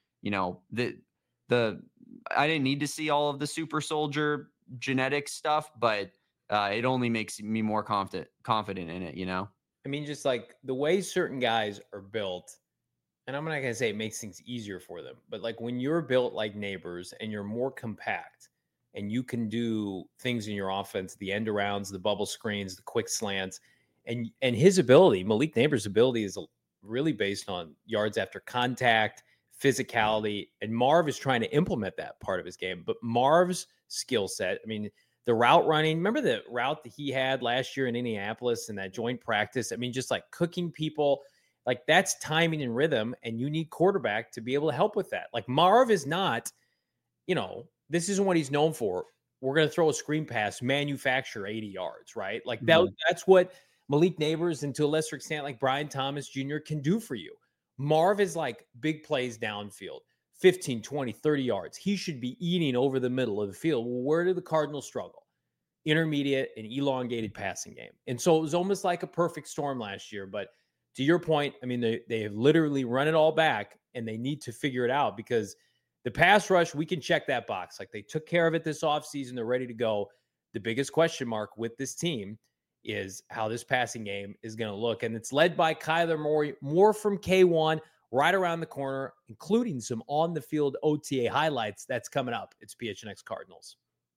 I didn't need to see all of the super soldier genetic stuff, but it only makes me more confident in it, I mean, just like the way certain guys are built, and I'm not going to say it makes things easier for them, but like when you're built like Neighbors and you're more compact and you can do things in your offense, the end arounds, the bubble screens, the quick slants, and his ability, Malik Neighbors' ability is really based on yards after contact, physicality, and Marv is trying to implement that part of his game. But Marv's skill set, I mean, the route running, remember the route that he had last year in Indianapolis in that joint practice? I mean, just like cooking people, like that's timing and rhythm, and you need quarterback to be able to help with that. Like Marv is not, this isn't what he's known for. We're going to throw a screen pass, manufacture 80 yards, right? Like that's what Malik Neighbors and to a lesser extent, like Brian Thomas Jr. can do for you. Marv is like big plays downfield, 15, 20, 30 yards. He should be eating over the middle of the field. Well, where did the Cardinals struggle? Intermediate and elongated passing game. And so it was almost like a perfect storm last year. But to your point, I mean, they have literally run it all back and they need to figure it out because the pass rush, we can check that box. Like they took care of it this offseason. They're ready to go. The biggest question mark with this team is how this passing game is going to look. And it's led by Kyler Moore from K1 right around the corner, including some on-the-field OTA highlights. That's coming up. It's PHNX Cardinals.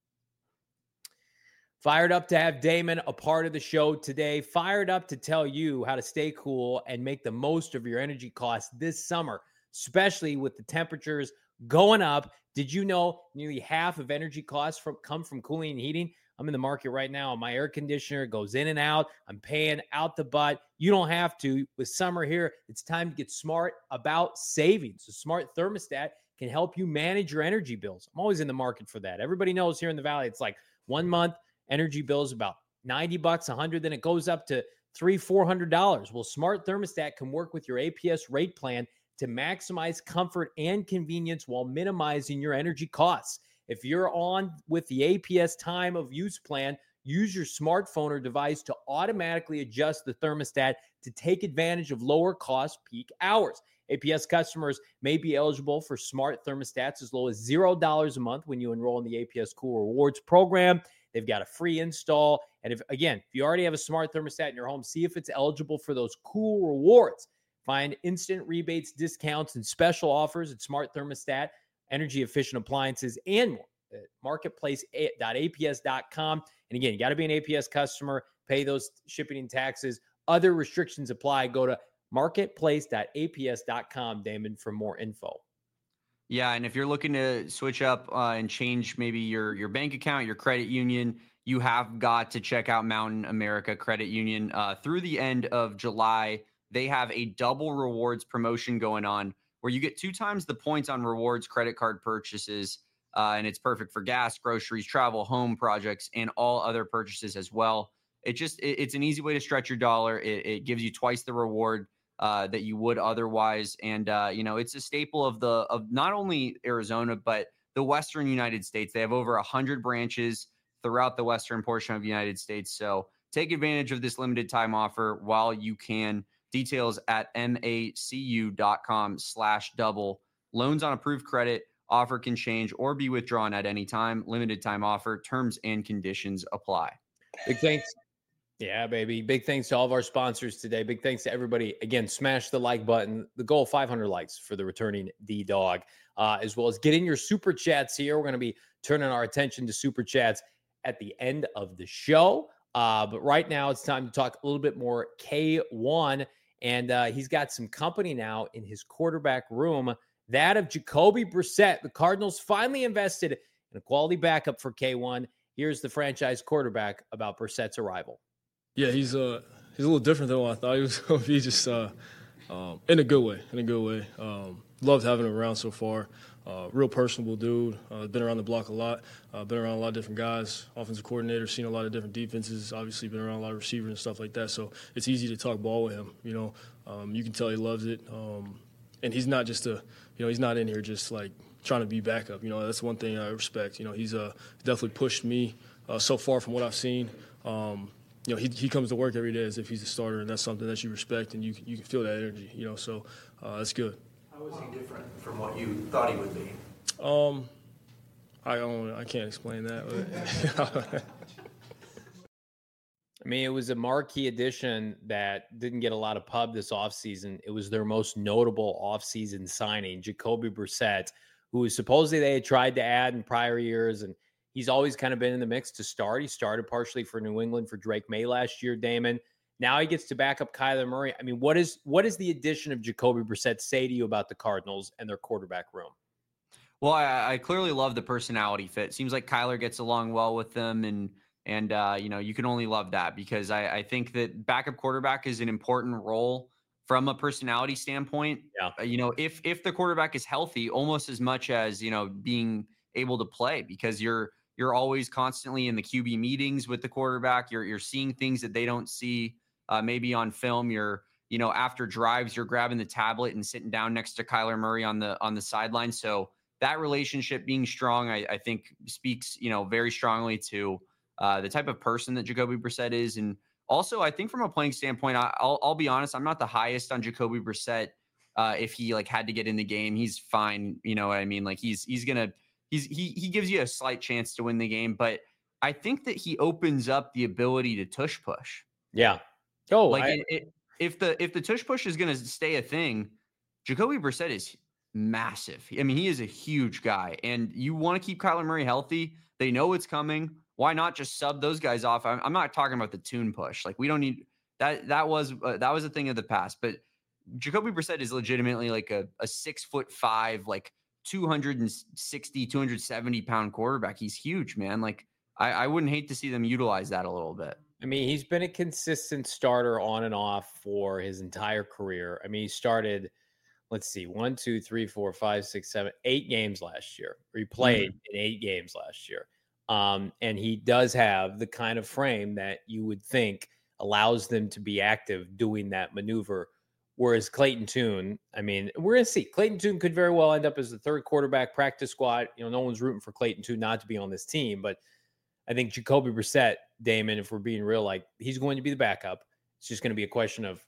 Fired up to have Damon a part of the show today. Fired up to tell you how to stay cool and make the most of your energy costs this summer, especially with the temperatures going up. Did you know nearly half of energy costs come from cooling and heating? I'm in the market right now. My air conditioner goes in and out. I'm paying out the butt. You don't have to. With summer here, it's time to get smart about savings. A smart thermostat can help you manage your energy bills. I'm always in the market for that. Everybody knows here in the Valley, it's like 1 month energy bills about $90, $100, then it goes up to $300-$400. Well, smart thermostat can work with your APS rate plan to maximize comfort and convenience while minimizing your energy costs. If you're on with the APS time of use plan, use your smartphone or device to automatically adjust the thermostat to take advantage of lower cost peak hours. APS customers may be eligible for smart thermostats as low as $0 a month when you enroll in the APS Cool Rewards program. They've got a free install. And if you already have a smart thermostat in your home, see if it's eligible for those cool rewards. Find instant rebates, discounts, and special offers at Smart Thermostat, energy efficient appliances, and more at marketplace.aps.com. And again, you got to be an APS customer, pay those shipping and taxes. Other restrictions apply. Go to marketplace.aps.com, Damon, for more info. Yeah, and if you're looking to switch up and change maybe your bank account, your credit union, you have got to check out Mountain America Credit Union. Through the end of July, they have a double rewards promotion going on where you get 2 times the points on rewards credit card purchases, and it's perfect for gas, groceries, travel, home projects, and all other purchases as well. It's an easy way to stretch your dollar. It gives you twice the reward that you would otherwise. And, it's a staple of not only Arizona, but the Western United States. They have over 100 branches throughout the Western portion of the United States. So take advantage of this limited time offer while you can. Details at macu.com/double. Loans on approved credit. Offer can change or be withdrawn at any time. Limited time offer. Terms and conditions apply. Big thanks. Yeah, baby. Big thanks to all of our sponsors today. Big thanks to everybody. Again, smash the like button. The goal, 500 likes for the returning D-Dog, as well as getting your super chats here. We're going to be turning our attention to super chats at the end of the show. But right now it's time to talk a little bit more K1. And he's got some company now in his quarterback room, that of Jacoby Brissett. The Cardinals finally invested in a quality backup for K1. Here's the franchise quarterback about Brissett's arrival. Yeah, he's a little different than what I thought he was going to be. Just in a good way. Loved having him around so far. Real personable dude. Been around the block a lot. Been around a lot of different guys. Offensive coordinator, seen a lot of different defenses. Obviously, been around a lot of receivers and stuff like that. So it's easy to talk ball with him. You can tell he loves it. And he's not just he's not in here just like trying to be backup. That's one thing I respect. He's definitely pushed me so far from what I've seen. He comes to work every day as if he's a starter, and that's something that you respect, and you can feel that energy. So that's good. How is he different from what you thought he would be? I can't explain that. I mean, it was a marquee addition that didn't get a lot of pub this offseason. It was their most notable offseason signing, Jacoby Brissett, who supposedly they had tried to add in prior years, and he's always kind of been in the mix to start. He started partially for New England for Drake May last year, Damon. Now he gets to back up Kyler Murray. I mean, what is the addition of Jacoby Brissett say to you about the Cardinals and their quarterback room? Well, I clearly love the personality fit. Seems like Kyler gets along well with them, and you can only love that, because I think that backup quarterback is an important role from a personality standpoint. Yeah. If the quarterback is healthy, almost as much as, being able to play, because you're always constantly in the QB meetings with the quarterback. You're seeing things that they don't see maybe on film. After drives, you're grabbing the tablet and sitting down next to Kyler Murray on the sideline. So that relationship being strong, I think speaks, very strongly to the type of person that Jacoby Brissett is. And also, I think from a playing standpoint, I'll be honest, I'm not the highest on Jacoby Brissett. If he had to get in the game, he's fine. You know what I mean? Like he gives you a slight chance to win the game, but I think that he opens up the ability to tush push. Yeah. If the tush push is going to stay a thing, Jacoby Brissett is massive. I mean, he is a huge guy, and you want to keep Kyler Murray healthy. They know it's coming. Why not just sub those guys off? I'm not talking about the tune push. Like, we don't need that. That was a thing of the past. But Jacoby Brissett is legitimately like a 6'5", like 260, 270 pound quarterback. He's huge, man. Like, I wouldn't hate to see them utilize that a little bit. I mean, he's been a consistent starter on and off for his entire career. I mean, he started, let's see, 1, 2, 3, 4, 5, 6, 7, 8 games last year. Or he played in 8 games last year. And he does have the kind of frame that you would think allows them to be active doing that maneuver. Whereas Clayton Tune, I mean, we're going to see. Clayton Tune could very well end up as the third quarterback practice squad. No one's rooting for Clayton Tune not to be on this team, but I think Jacoby Brissett, Damon, if we're being real, like, he's going to be the backup. It's just going to be a question of,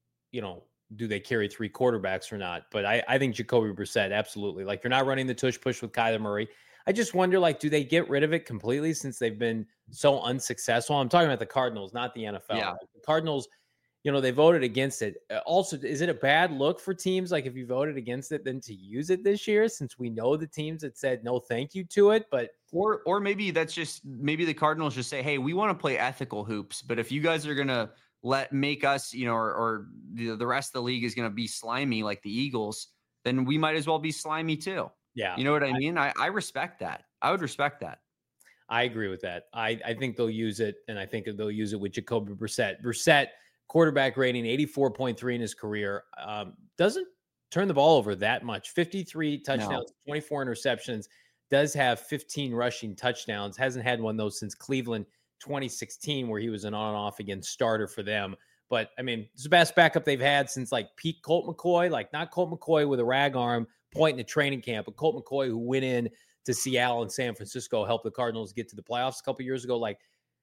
do they carry 3 quarterbacks or not? But I think Jacoby Brissett, absolutely. Like, you're not running the tush push with Kyler Murray. I just wonder, like, do they get rid of it completely since they've been so unsuccessful? I'm talking about the Cardinals, not the NFL. Yeah. Like, the Cardinals, they voted against it. Also, is it a bad look for teams, like, if you voted against it, then to use it this year, since we know the teams that said no thank you to it? But or maybe maybe the Cardinals just say, hey, we want to play ethical hoops, but if you guys are gonna make us, or the rest of the league is gonna be slimy like the Eagles, then we might as well be slimy too. Yeah. You know what I mean? I respect that. I would respect that. I agree with that. I think they'll use it, and I think they'll use it with Jacoby Brissett. Brissett, quarterback rating 84.3 in his career. Doesn't turn the ball over that much. 53 touchdowns, 24 interceptions. Does have 15 rushing touchdowns. Hasn't had one, though, since Cleveland 2016, where he was an on-off again starter for them. But, I mean, it's the best backup they've had since, like, Pete Colt McCoy. Like, not Colt McCoy with a rag arm point in the training camp, but Colt McCoy, who went in to Seattle and San Francisco, helped the Cardinals get to the playoffs a couple years ago. Like,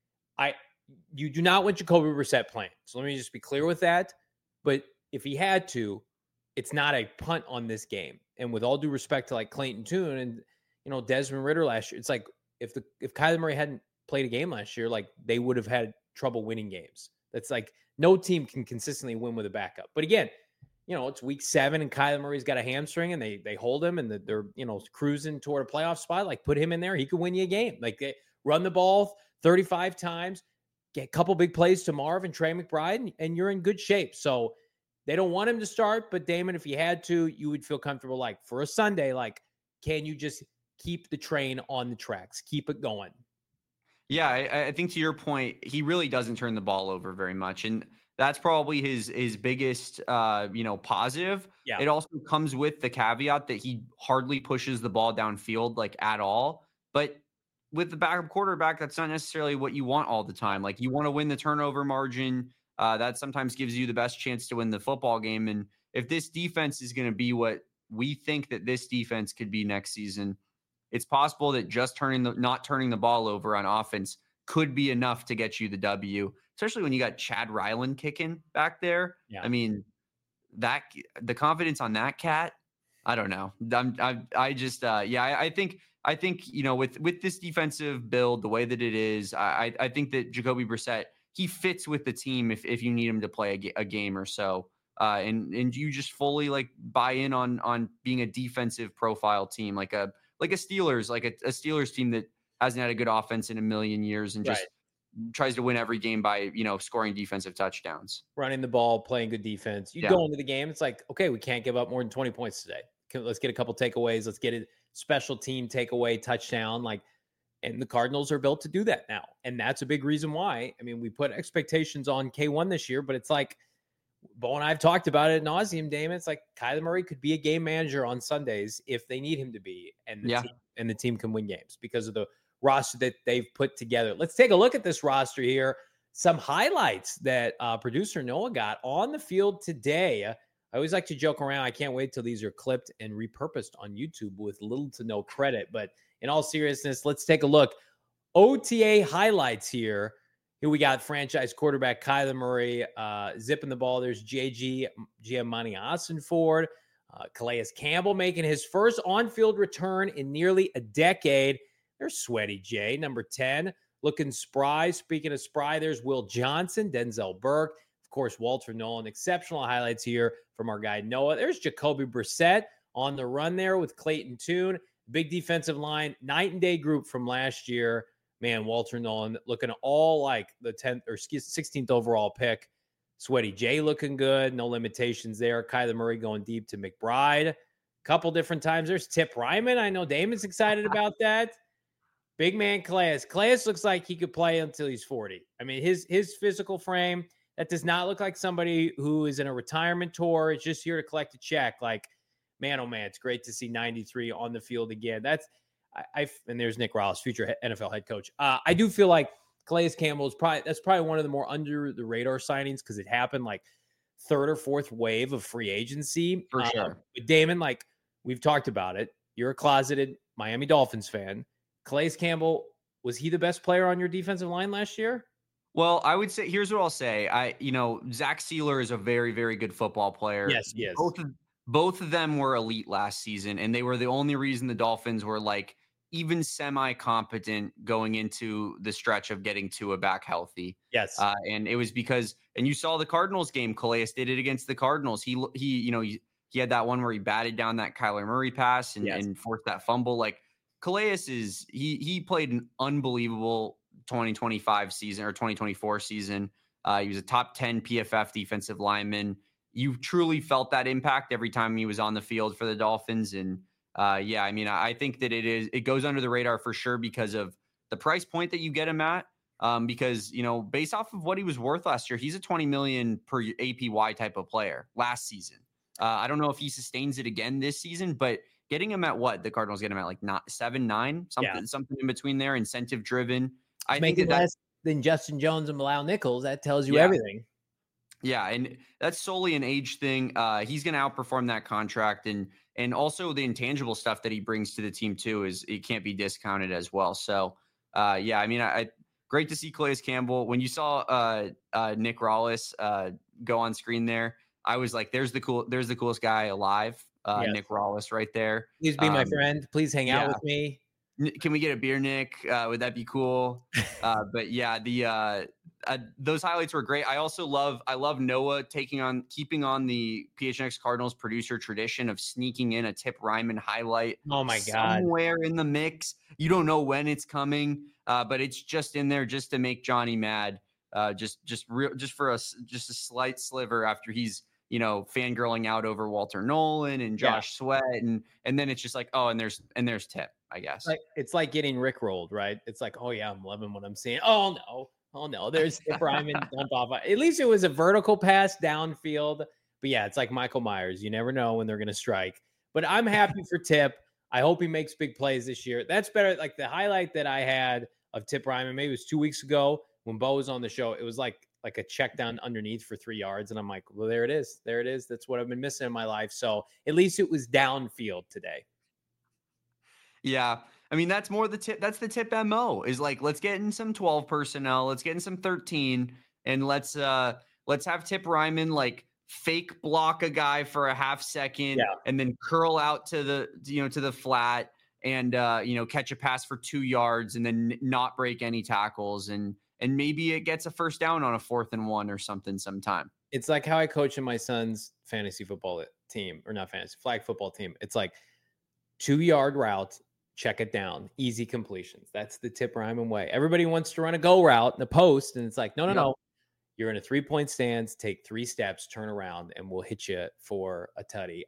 you do not want Jacoby Brissett playing. So let me just be clear with that. But if he had to, it's not a punt on this game. And with all due respect to, like, Clayton Tune and, Desmond Ridder last year, it's like if Kyler Murray hadn't played a game last year, like, they would have had trouble winning games. That's like, no team can consistently win with a backup. But again, it's week 7 and Kyler Murray's got a hamstring and they hold him and they're, cruising toward a playoff spot. Like, put him in there. He could win you a game. Like, they run the ball 35 times, get a couple big plays to Marv and Trey McBride, and you're in good shape. So they don't want him to start, but Damon, if you had to, you would feel comfortable, like, for a Sunday, like, can you just keep the train on the tracks, keep it going? Yeah, I think to your point, he really doesn't turn the ball over very much. And that's probably his biggest, positive. Yeah. It also comes with the caveat that he hardly pushes the ball downfield, like, at all. But with the backup quarterback, that's not necessarily what you want all the time. Like, you want to win the turnover margin. That sometimes gives you the best chance to win the football game. And if this defense is going to be what we think that this defense could be next season, it's possible that just not turning the ball over on offense could be enough to get you the W, especially when you got Chad Ryland kicking back there. Yeah. I mean, the confidence on that cat, I don't know. I think, with this defensive build, the way that it is, I think that Jacoby Brissett, he fits with the team if you need him to play a game or so. And you just fully like buy in on being a defensive profile team, like a Steelers, like a Steelers team that hasn't had a good offense in a million years and just tries to win every game by, scoring defensive touchdowns. Running the ball, playing good defense. You go into the game, it's like, okay, we can't give up more than 20 points today. Let's get a couple takeaways. Let's get a special team takeaway touchdown. And the Cardinals are built to do that now. And that's a big reason why. I mean, we put expectations on K1 this year, but it's like, Bo and I have talked about it ad nauseum, Damon. It's like Kyler Murray could be a game manager on Sundays if they need him to be, and the team can win games because of the roster that they've put together. Let's take a look at this roster here. Some highlights that producer Noah got on the field today. I always like to joke around. I can't wait till these are clipped and repurposed on YouTube with little to no credit. But in all seriousness, let's take a look. OTA highlights here. Here we got franchise quarterback Kyler Murray zipping the ball. There's Giamatti Ossenford. Calais Campbell making his first on-field return in nearly a decade. There's Sweaty J, number 10, looking spry. Speaking of spry, there's Will Johnson, Denzel Burke, of course, Walter Nolan. Exceptional highlights here from our guy Noah. There's Jacoby Brissett on the run there with Clayton Tune. Big defensive line, night and day group from last year. Man, Walter Nolan looking all like the 10th or 16th overall pick. Sweaty J looking good. No limitations there. Kyler Murray going deep to McBride. Couple different times. There's Tip Ryman. I know Damon's excited about that. Big man Calais. Calais looks like he could play until he's 40. I mean, his physical frame, that does not look like somebody who is in a retirement tour. It's just here to collect a check. Like, man, oh man, it's great to see 93 on the field again. And there's Nick Ross, future NFL head coach. I do feel like Calais Campbell is probably one of the more under the radar signings because it happened like third or fourth wave of free agency. For sure. But Damon, like we've talked about it, you're a closeted Miami Dolphins fan. Calais Campbell, was he the best player on your defensive line last year? Well, I would say, here's what I'll say. Zach Sealer is a very, very good football player. Yes, he is. Both of them were elite last season, and they were the only reason the Dolphins were like even semi-competent going into the stretch of getting Tua back healthy. Yes. And it was because, and you saw the Cardinals game, Calais did it against the Cardinals. He had that one where he batted down that Kyler Murray pass and forced that fumble. Like Calais he played an unbelievable 2025 season or 2024 season. He was a top 10 PFF defensive lineman. You truly felt that impact every time he was on the field for the Dolphins. And I think that it goes under the radar for sure because of the price point that you get him at. Because, based off of what he was worth last year, he's a $20 million per APY type of player last season. I don't know if he sustains it again this season, but getting him at what the Cardinals get him at like 7, 9, something in between there, incentive driven. I think that's less than Justin Jones and Bilal Nichols. That tells you everything. Yeah, and that's solely an age thing. He's going to outperform that contract, and also the intangible stuff that he brings to the team too it can't be discounted as well. So, great to see Calais Campbell. When you saw Nick Rollis go on screen there, I was like, "There's the coolest guy alive." Yes. Nick Rollis right there. Please be my friend. Please hang out with me. Can we get a beer, Nick? Would that be cool? But yeah, those highlights were great. I love Noah keeping on the PHNX Cardinals producer tradition of sneaking in a Tip Ryman highlight. Oh my God. Somewhere in the mix. You don't know when it's coming, but it's just in there just to make Johnny mad. Just for a slight sliver after he's, fangirling out over Walter Nolan and Josh Sweat. And then it's just like, oh, and there's Tip, I guess. It's like getting rickrolled, right? It's like, oh yeah, I'm loving what I'm seeing. Oh no, there's Tip Ryman dumped off. At least it was a vertical pass downfield. But yeah, it's like Michael Myers. You never know when they're going to strike. But I'm happy for Tip. I hope he makes big plays this year. That's better. Like the highlight that I had of Tip Ryman, maybe it was 2 weeks ago when Bo was on the show. It was like a check down underneath for 3 yards. And I'm like, well, there it is. There it is. That's what I've been missing in my life. So at least it was downfield today. Yeah. I mean, that's more the tip. That's the Tip MO is like, let's get in some 12 personnel. Let's get in some 13 and let's have Tip Ryman like fake block a guy for a half second and then curl out to the flat and, catch a pass for 2 yards and then not break any tackles. And and maybe it gets a first down on a 4th and 1 or something sometime. It's like how I coach in my son's fantasy football team, or not fantasy, flag football team. It's like 2-yard route, check it down, easy completions. That's the Tip Ryman way. Everybody wants to run a go route in the post, and it's like, no. You're in a 3-point stance, take 3 steps, turn around, and we'll hit you for a tutty.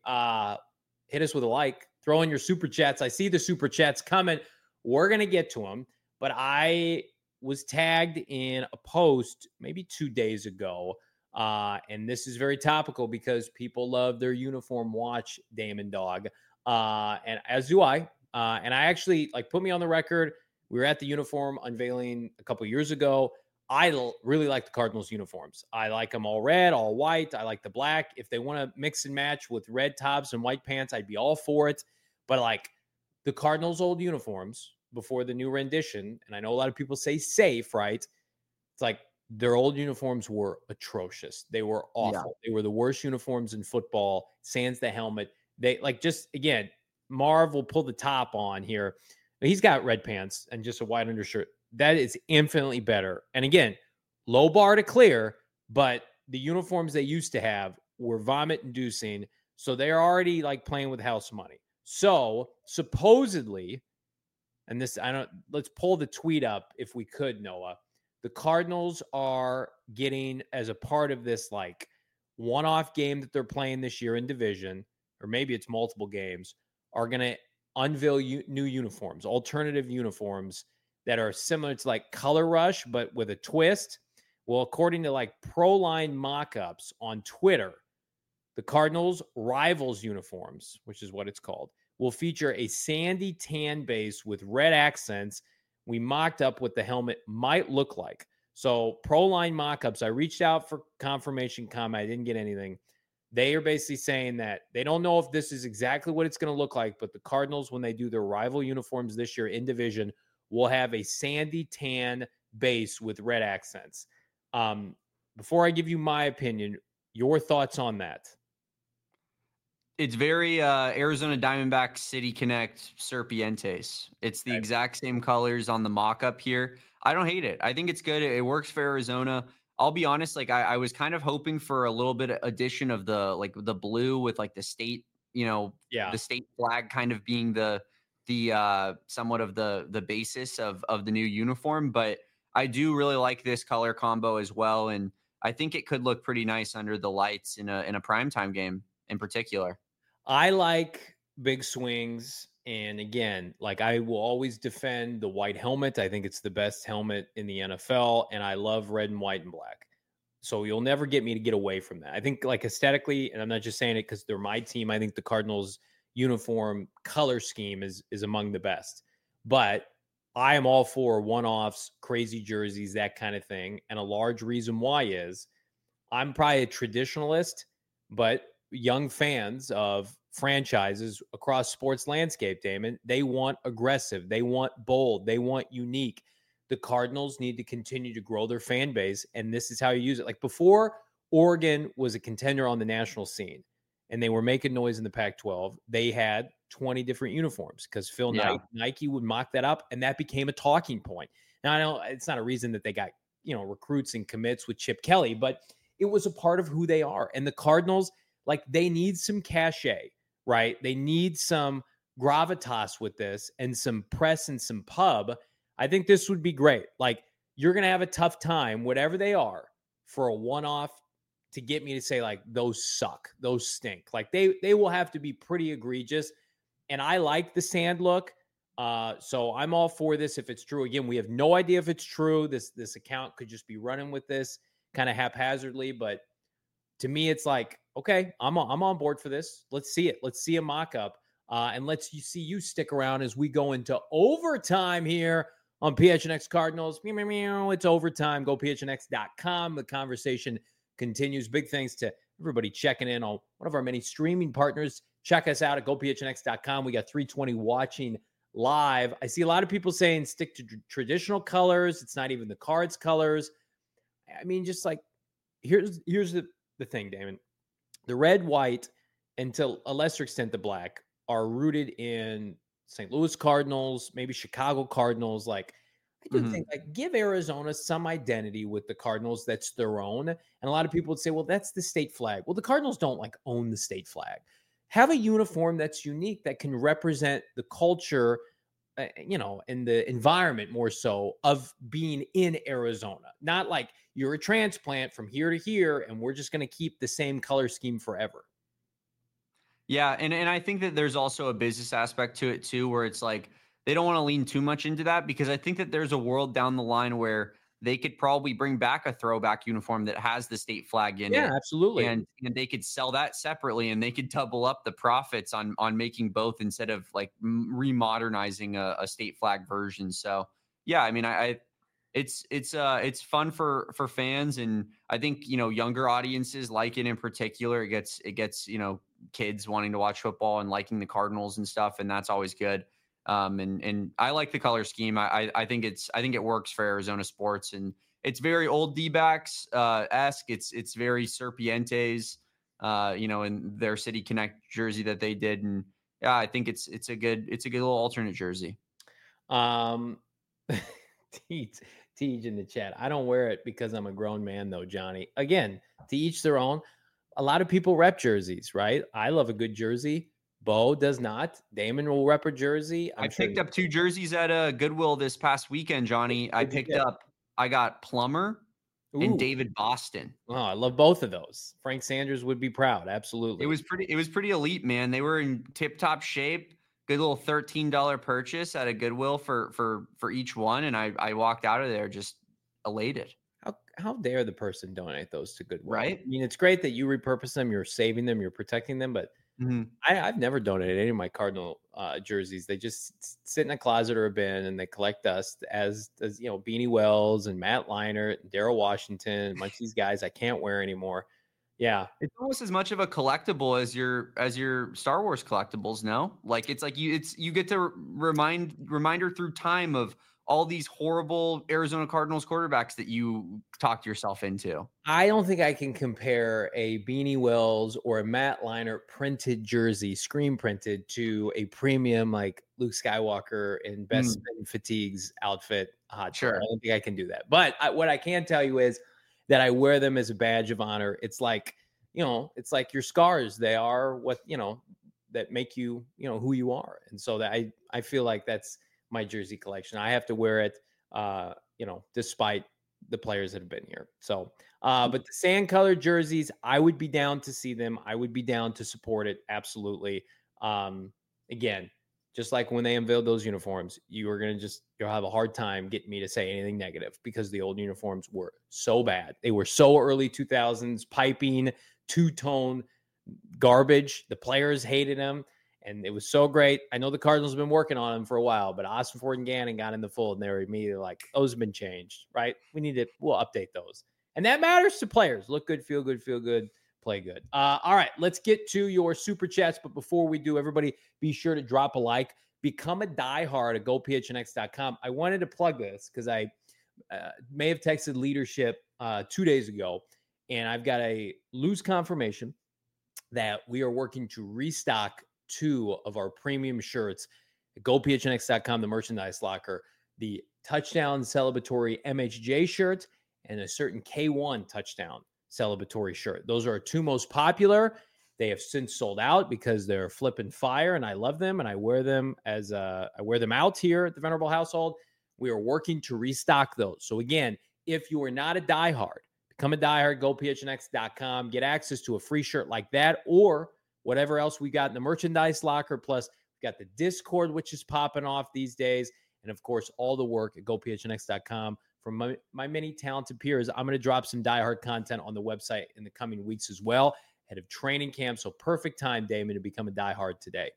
Hit us with a like, throw in your super chats. I see the super chats coming. We're going to get to them, but I was tagged in a post maybe 2 days ago. And this is very topical because people love their uniform watch, Damon Dog. And as do I. And I actually put me on the record. We were at the uniform unveiling a couple years ago. I really like the Cardinals uniforms. I like them all red, all white. I like the black. If they want to mix and match with red tops and white pants, I'd be all for it. But the Cardinals' old uniforms before the new rendition, and I know a lot of people say safe, right? It's their old uniforms were atrocious. They were awful. Yeah. They were the worst uniforms in football. Sans the helmet. They again, Marv will pull the top on here. He's got red pants and just a white undershirt. That is infinitely better. And again, low bar to clear, but the uniforms they used to have were vomit inducing. So they're already playing with house money. So supposedly, and let's pull the tweet up if we could, Noah. The Cardinals are getting, as a part of this one-off game that they're playing this year in division, or maybe it's multiple games, are going to unveil new uniforms, alternative uniforms that are similar to Color Rush, but with a twist. Well, according to ProLine Mockups on Twitter, the Cardinals Rivals uniforms, which is what it's called, will feature a sandy tan base with red accents. We mocked up what the helmet might look like. So ProLine Mockups, I reached out for confirmation comment. I didn't get anything. They are basically saying that they don't know if this is exactly what it's going to look like, but the Cardinals, when they do their rival uniforms this year in division, will have a sandy tan base with red accents. Before I give you my opinion, your thoughts on that? It's very Arizona Diamondbacks City Connect Serpientes. It's the exact same colors on the mock-up here. I don't hate it. I think it's good. It works for Arizona. I'll be honest, I was kind of hoping for a little bit of addition of the blue with the state, the state flag kind of being the somewhat of the basis of the new uniform. But I do really like this color combo as well. And I think it could look pretty nice under the lights in a primetime game in particular. I like big swings. And again, I will always defend the white helmet. I think it's the best helmet in the NFL. And I love red and white and black. So you'll never get me to get away from that. I think aesthetically, and I'm not just saying it because they're my team, I think the Cardinals uniform color scheme is among the best. But I am all for one-offs, crazy jerseys, that kind of thing. And a large reason why is I'm probably a traditionalist, but young fans of franchises across sports landscape, Damon, they want aggressive, they want bold, they want unique. The Cardinals need to continue to grow their fan base, and this is how you use it. Before Oregon was a contender on the national scene and they were making noise in the Pac-12, they had 20 different uniforms because Phil Knight, Nike would mock that up, and that became a talking point. Now, I know it's not a reason that they got, recruits and commits with Chip Kelly, but it was a part of who they are. And the Cardinals, they need some cachet, right? They need some gravitas with this and some press and some pub. I think this would be great. You're going to have a tough time, whatever they are, for a one-off to get me to say, those suck, those stink. They will have to be pretty egregious. And I like the sand look. So I'm all for this if it's true. Again, we have no idea if it's true. This account could just be running with this kind of haphazardly. But to me, it's okay, I'm on board for this. Let's see it. Let's see a mock-up. And let's see you stick around as we go into overtime here on PHNX Cardinals. Meow, meow, meow. It's overtime. Go PHNX.com. The conversation continues. Big thanks to everybody checking in on one of our many streaming partners. Check us out at GoPHNX.com. We got 320 watching live. I see a lot of people saying stick to traditional colors. It's not even the Cards colors. I mean, just here's the thing, Damon. The red, white, and to a lesser extent the black are rooted in St. Louis Cardinals, maybe Chicago Cardinals. I do think like give Arizona some identity with the Cardinals that's their own. And a lot of people would say, well, that's the state flag. Well, the Cardinals don't like own the state flag. Have a uniform that's unique that can represent the culture, and the environment more so of being in Arizona. Not like you're a transplant from here to here and we're just going to keep the same color scheme forever. Yeah, and I think that there's also a business aspect to it too, where it's like they don't want to lean too much into that, because I think that there's a world down the line where they could probably bring back a throwback uniform that has the state flag in it. Yeah, absolutely. And they could sell that separately, and they could double up the profits on making both instead of like remodernizing a state flag version. So yeah, I mean, it's fun for fans, and I think younger audiences like it in particular. It gets kids wanting to watch football and liking the Cardinals and stuff, and that's always good. And I like the color scheme. I think it works for Arizona sports, and it's very old D-backs esque. It's very Serpientes, in their City Connect jersey that they did, and yeah, I think it's a good little alternate jersey. Teach in the chat. I don't wear it because I'm a grown man, though, Johnny. Again, to each their own. A lot of people rep jerseys, right? I love a good jersey. Bo does not. Damon will rep a jersey. I picked up 2 jerseys at a Goodwill this past weekend, Johnny. I got Plummer and David Boston. Oh, I love both of those. Frank Sanders would be proud. Absolutely. It was pretty elite, man. They were in tip-top shape. Good little $13 purchase at a Goodwill for each one, and I walked out of there just elated. How dare the person donate those to Goodwill? Right? I mean, it's great that you repurpose them, you're saving them, you're protecting them, but I've never donated any of my Cardinal jerseys. They just sit in a closet or a bin, and they collect dust as Beanie Wells and Matt Leinart and Darrell Washington, a bunch of these guys I can't wear anymore. Yeah, it's almost as much of a collectible as your Star Wars collectibles. No, like it's like you get to reminder through time of all these horrible Arizona Cardinals quarterbacks that you talked yourself into. I don't think I can compare a Beanie Wells or a Matt Leinart printed jersey, screen printed, to a premium like Luke Skywalker in Best Men Fatigues outfit. Sure. I don't think I can do that. But what I can tell you is that I wear them as a badge of honor. It's like, it's like your scars. They are what, that make you, who you are. And so that I feel like that's my jersey collection. I have to wear it, despite the players that have been here. So, but the sand colored jerseys, I would be down to see them. I would be down to support it. Absolutely. Again, just like when they unveiled those uniforms, you'll have a hard time getting me to say anything negative, because the old uniforms were so bad. They were so early 2000s, piping, two-tone garbage. The players hated them. And it was so great. I know the Cardinals have been working on them for a while, but Ossenfort and Gannon got in the fold, and they were immediately like, those have been changed, right? We'll update those. And that matters to players. Look good, feel good, play good. All right, let's get to your super chats. But before we do, everybody be sure to drop a like. Become a diehard at GoPHNX.com. I wanted to plug this because I may have texted leadership 2 days ago, and I've got a loose confirmation that we are working to restock 2 of our premium shirts at GoPHNX.com, the merchandise locker, the touchdown celebratory MHJ shirt and a certain K1 touchdown celebratory shirt. Those are our 2 most popular. They have since sold out because they're flipping fire, and I love them, and I wear them I wear them out here at the Venerable household. We are working to restock those. So again, if you are not a diehard, become a diehard, GoPHNX.com, get access to a free shirt like that, or whatever else we got in the merchandise locker. Plus, we've got the Discord, which is popping off these days. And, of course, all the work at GoPHNX.com from my many talented peers. I'm going to drop some diehard content on the website in the coming weeks as well, ahead of training camp. So perfect time, Damon, to become a diehard today.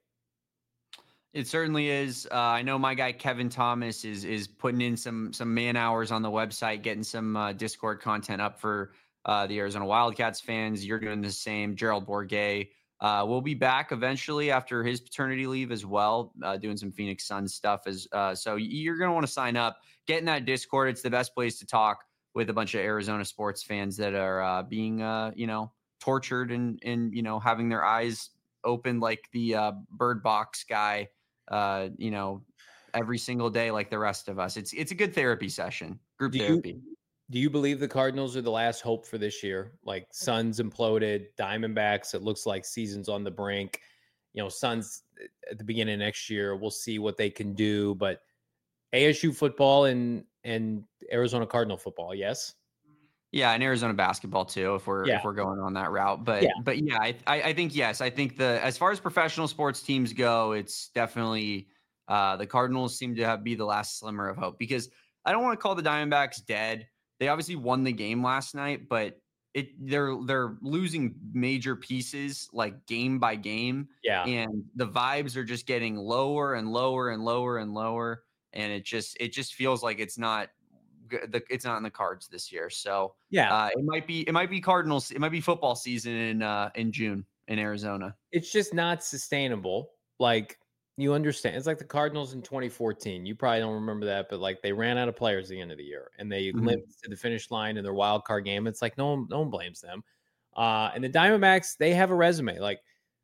It certainly is. I know my guy Kevin Thomas is putting in some man hours on the website, getting some Discord content up for the Arizona Wildcats fans. You're doing the same. Gerald Bourguet will be back eventually after his paternity leave as well, doing some Phoenix Suns stuff. So you're going to want to sign up, get in that Discord. It's the best place to talk with a bunch of Arizona sports fans that are being, tortured and having their eyes open like the Bird Box guy, every single day like the rest of us. It's a good therapy session, group therapy. Do you believe the Cardinals are the last hope for this year? Like Suns imploded, Diamondbacks, it looks like season's on the brink. Suns at the beginning of next year, we'll see what they can do. But ASU football and Arizona Cardinal football, yes? Yeah, and Arizona basketball too, if we're going on that route. But yeah, I think yes. I think as far as professional sports teams go, it's definitely the Cardinals seem to be the last slimmer of hope, because I don't want to call the Diamondbacks dead. They obviously won the game last night, but they're losing major pieces like game by game. Yeah. And the vibes are just getting lower and lower and lower and lower. And it just feels like it's not in the cards this year. So it might be Cardinals. It might be football season in June in Arizona. It's just not sustainable. Like, you understand, it's like the Cardinals in 2014. You probably don't remember that, but like they ran out of players at the end of the year and they limped to the finish line in their wild card game. It's like no one blames them. And the Diamondbacks, they have a resume. Like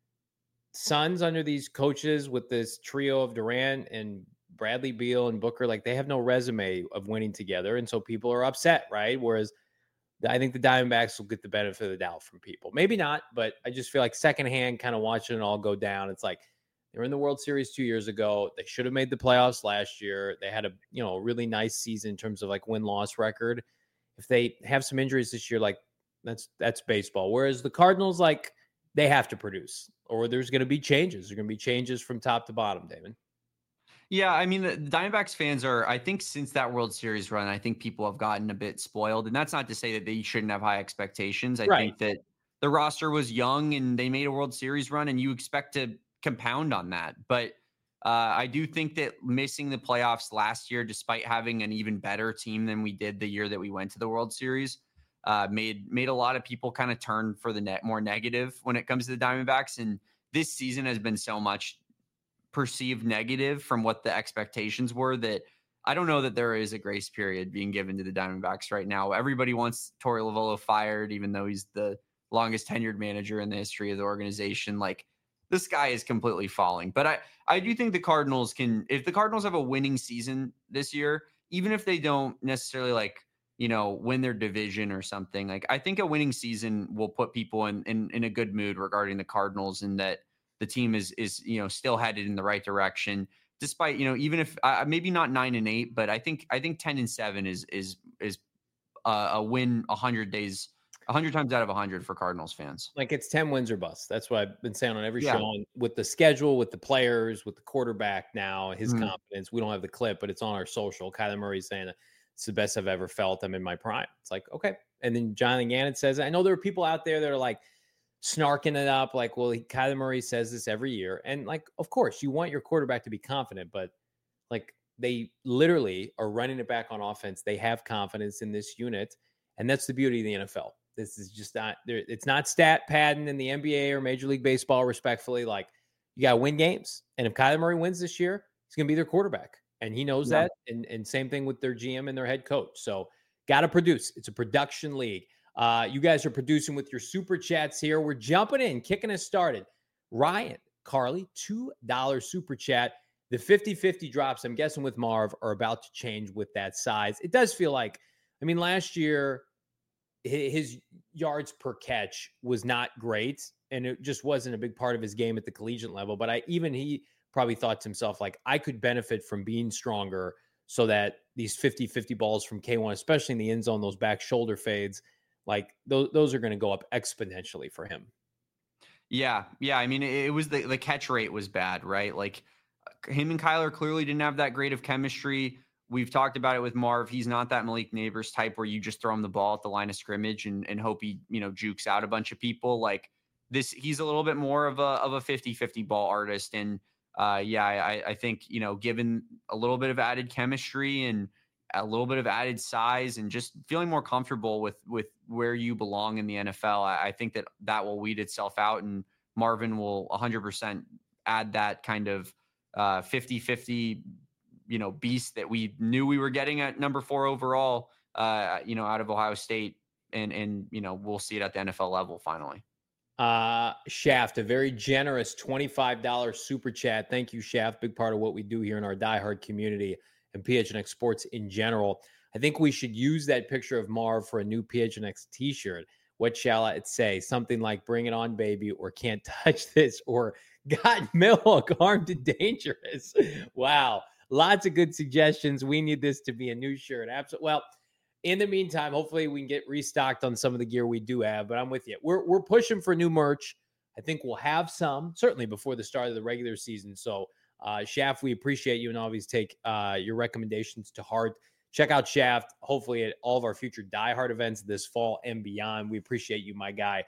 Suns under these coaches with this trio of Durant and Bradley Beal and Booker, like they have no resume of winning together. And so people are upset, right? Whereas I think the Diamondbacks will get the benefit of the doubt from people. Maybe not, but I just feel like secondhand kind of watching it all go down. It's like they were in the World Series 2 years ago. They should have made the playoffs last year. They had a really nice season in terms of like win-loss record. If they have some injuries this year, like that's baseball. Whereas the Cardinals, like they have to produce, or there's going to be changes. There's going to be changes from top to bottom, Damon. Yeah, I mean, the Diamondbacks fans are, I think since that World Series run, I think people have gotten a bit spoiled. And that's not to say that they shouldn't have high expectations. I think that the roster was young and they made a World Series run and you expect to compound on that. But I do think that missing the playoffs last year, despite having an even better team than we did the year that we went to the World Series, made a lot of people kind of turn for the more negative when it comes to the Diamondbacks. And this season has been so much perceived negative from what the expectations were that I don't know that there is a grace period being given to the Diamondbacks right now. Everybody wants Torey Lovullo fired, even though he's the longest tenured manager in the history of the organization. Like, the sky is completely falling. But I do think the Cardinals if the Cardinals have a winning season this year, even if they don't necessarily win their division or something, like I think a winning season will put people in a good mood regarding the Cardinals, and that the team is still headed in the right direction, despite even if maybe not 9-8, but I think 10-7 is a win 100 times out of 100 for Cardinals fans. Like it's 10 wins or bust. That's what I've been saying on every show. And with the schedule, with the players, with the quarterback now, his confidence. We don't have the clip, but it's on our social. Kyler Murray's saying it's the best I've ever felt. I'm in my prime. It's like, okay. And then Jonathan Gannon says, I know there are people out there that are like snarking it up, like, well, Kyler Murray says this every year. And like, of course, you want your quarterback to be confident, but like they literally are running it back on offense. They have confidence in this unit. And that's the beauty of the NFL. This is just not there. It's not stat padding in the NBA or Major League Baseball, respectfully. Like, you got to win games. And if Kyler Murray wins this year, he's going to be their quarterback. And he knows that. And same thing with their GM and their head coach. So got to produce. It's a production league. You guys are producing with your super chats here. We're jumping in, kicking us started. Ryan, Carly, $2 super chat. The 50-50 drops, I'm guessing with Marv, are about to change with that size. It does feel like, I mean, last year, his yards per catch was not great, and it just wasn't a big part of his game at the collegiate level. But he probably thought to himself, like, I could benefit from being stronger so that these 50-50 balls from K1, especially in the end zone, those back shoulder fades, like those are going to go up exponentially for him. Yeah. I mean, it was the catch rate was bad, right? Like, him and Kyler clearly didn't have that great of chemistry. We've talked about it with Marv. He's not that Malik Neighbors type where you just throw him the ball at the line of scrimmage and hope he, jukes out a bunch of people. Like this, he's a little bit more of a 50-50 ball artist. And I think, given a little bit of added chemistry and a little bit of added size and just feeling more comfortable with where you belong in the NFL, I think that will weed itself out, and Marvin will 100% add that kind of 50-50 beast that we knew we were getting at number 4 overall, out of Ohio State. And we'll see it at the NFL level finally. Shaft, a very generous $25 super chat. Thank you, Shaft. Big part of what we do here in our diehard community and PHNX Sports in general. I think we should use that picture of Marv for a new PHNX t-shirt. What shall it say? Something like "Bring it on, baby," or "Can't touch this," or "Got milk, armed and dangerous." Wow. Lots of good suggestions. We need this to be a new shirt. Absolutely. Well, in the meantime, hopefully we can get restocked on some of the gear we do have, but I'm with you. We're pushing for new merch. I think we'll have some, certainly before the start of the regular season. So, Shaft, we appreciate you and always take your recommendations to heart. Check out Shaft, hopefully at all of our future Die Hard events this fall and beyond. We appreciate you, my guy.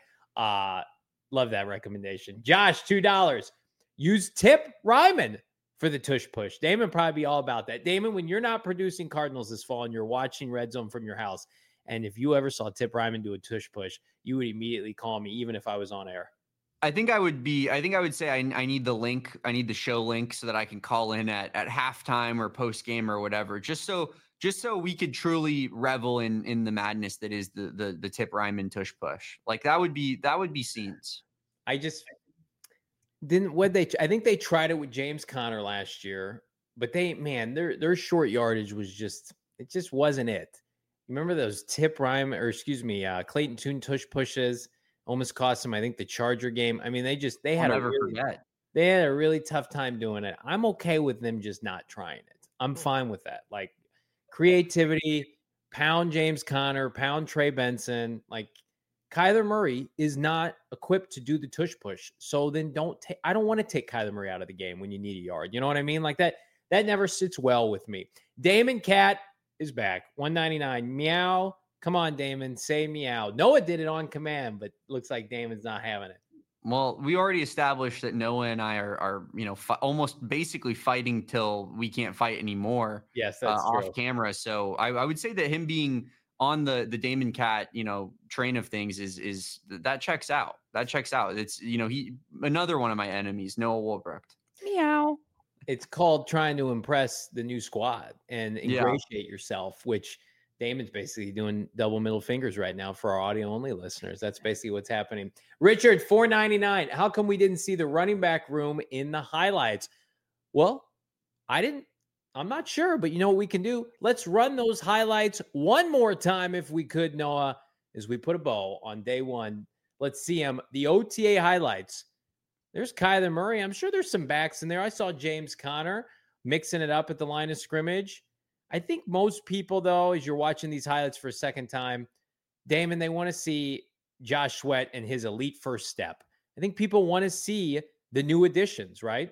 Love that recommendation. Josh, $2. Use Tip Ryman for the tush push. Damon probably be all about that. Damon, when you're not producing Cardinals this fall and you're watching Red Zone from your house, and if you ever saw Tip Ryman do a tush push, you would immediately call me, even if I was on air. I think I would say I need the link. I need the show link so that I can call in at halftime or post game or whatever, just so we could truly revel in the madness that is the Tip Ryman tush push. Like that would be scenes. I just didn't I think they tried it with James Conner last year, but their short yardage was it just wasn't it. You remember those Tip Ryman Clayton Tune tush pushes almost cost them, I think, the Charger game. I mean, they had a really tough time doing it. I'm okay with them just not trying it. I'm fine with that. Like creativity, pound James Conner, pound Trey Benson, like Kyler Murray is not equipped to do the tush push. So then I don't want to take Kyler Murray out of the game when you need a yard. You know what I mean? Like that never sits well with me. Damon Cat is back. 199. Meow. Come on, Damon. Say meow. Noah did it on command, but looks like Damon's not having it. Well, we already established that Noah and I are almost basically fighting till we can't fight anymore. Yes, that's off true. Camera. So I would say that him being on the Damon Cat, train of things is that checks out. That checks out. It's, he another one of my enemies, Noah Wolbrecht. Meow. It's called trying to impress the new squad and ingratiate yourself, which Damon's basically doing double middle fingers right now for our audio only listeners. That's basically what's happening. Richard, $4.99. How come we didn't see the running back room in the highlights? Well, I'm not sure, but you know what we can do? Let's run those highlights one more time if we could, Noah, as we put a bow on day one. Let's see them. The OTA highlights. There's Kyler Murray. I'm sure there's some backs in there. I saw James Conner mixing it up at the line of scrimmage. I think most people, though, as you're watching these highlights for a second time, Damon, they want to see Josh Sweat and his elite first step. I think people want to see the new additions, right?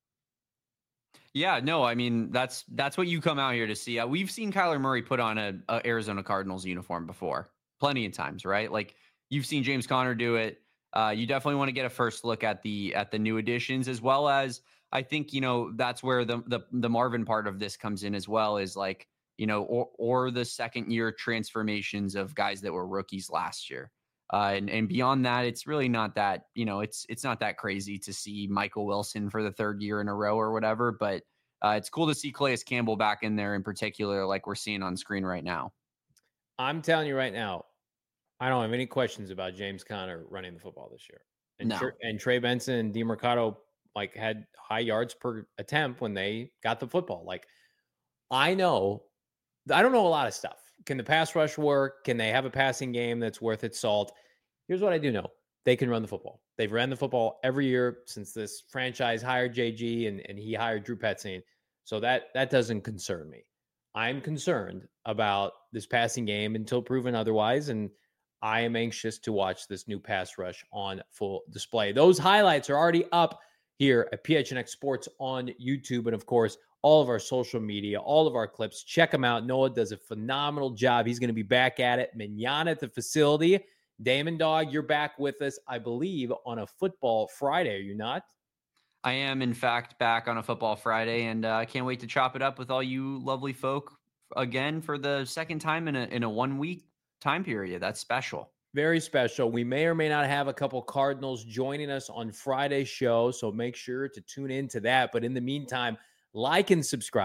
Yeah, no, I mean, that's what you come out here to see. We've seen Kyler Murray put on a Arizona Cardinals uniform before, plenty of times, right? Like you've seen James Conner do it. You definitely want to get a first look at the new additions, as well as I think, that's where the Marvin part of this comes in as well, is like, or the second year transformations of guys that were rookies last year. And beyond that, it's really not that, it's not that crazy to see Michael Wilson for the third year in a row or whatever, but it's cool to see Calais Campbell back in there in particular, like we're seeing on screen right now. I'm telling you right now, I don't have any questions about James Conner running the football this year. And Trey Benson and DeMercado had high yards per attempt when they got the football. I don't know a lot of stuff. Can the pass rush work? Can they have a passing game that's worth its salt? Here's what I do know. They can run the football. They've ran the football every year since this franchise hired JG and he hired Drew Petzing. So that doesn't concern me. I'm concerned about this passing game until proven otherwise. And I am anxious to watch this new pass rush on full display. Those highlights are already up here at PHNX Sports on YouTube. And of course, all of our social media, all of our clips. Check them out. Noah does a phenomenal job. He's going to be back at it manana at the facility. Damon Dog, you're back with us, I believe, on a Football Friday. Are you not? I am, in fact, back on a Football Friday, and I can't wait to chop it up with all you lovely folk again for the second time in a 1 week time period. That's special. Very special. We may or may not have a couple Cardinals joining us on Friday's show, so make sure to tune in to that. But in the meantime, like and subscribe.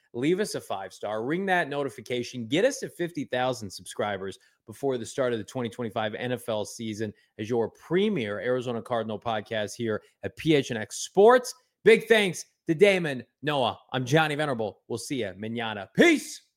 leave us a 5-star, ring that notification, get us to 50,000 subscribers before the start of the 2025 NFL season as your premier Arizona Cardinal podcast here at PHNX Sports. Big thanks to Damon Noah. I'm Johnny Venerable. We'll see you mañana. Peace.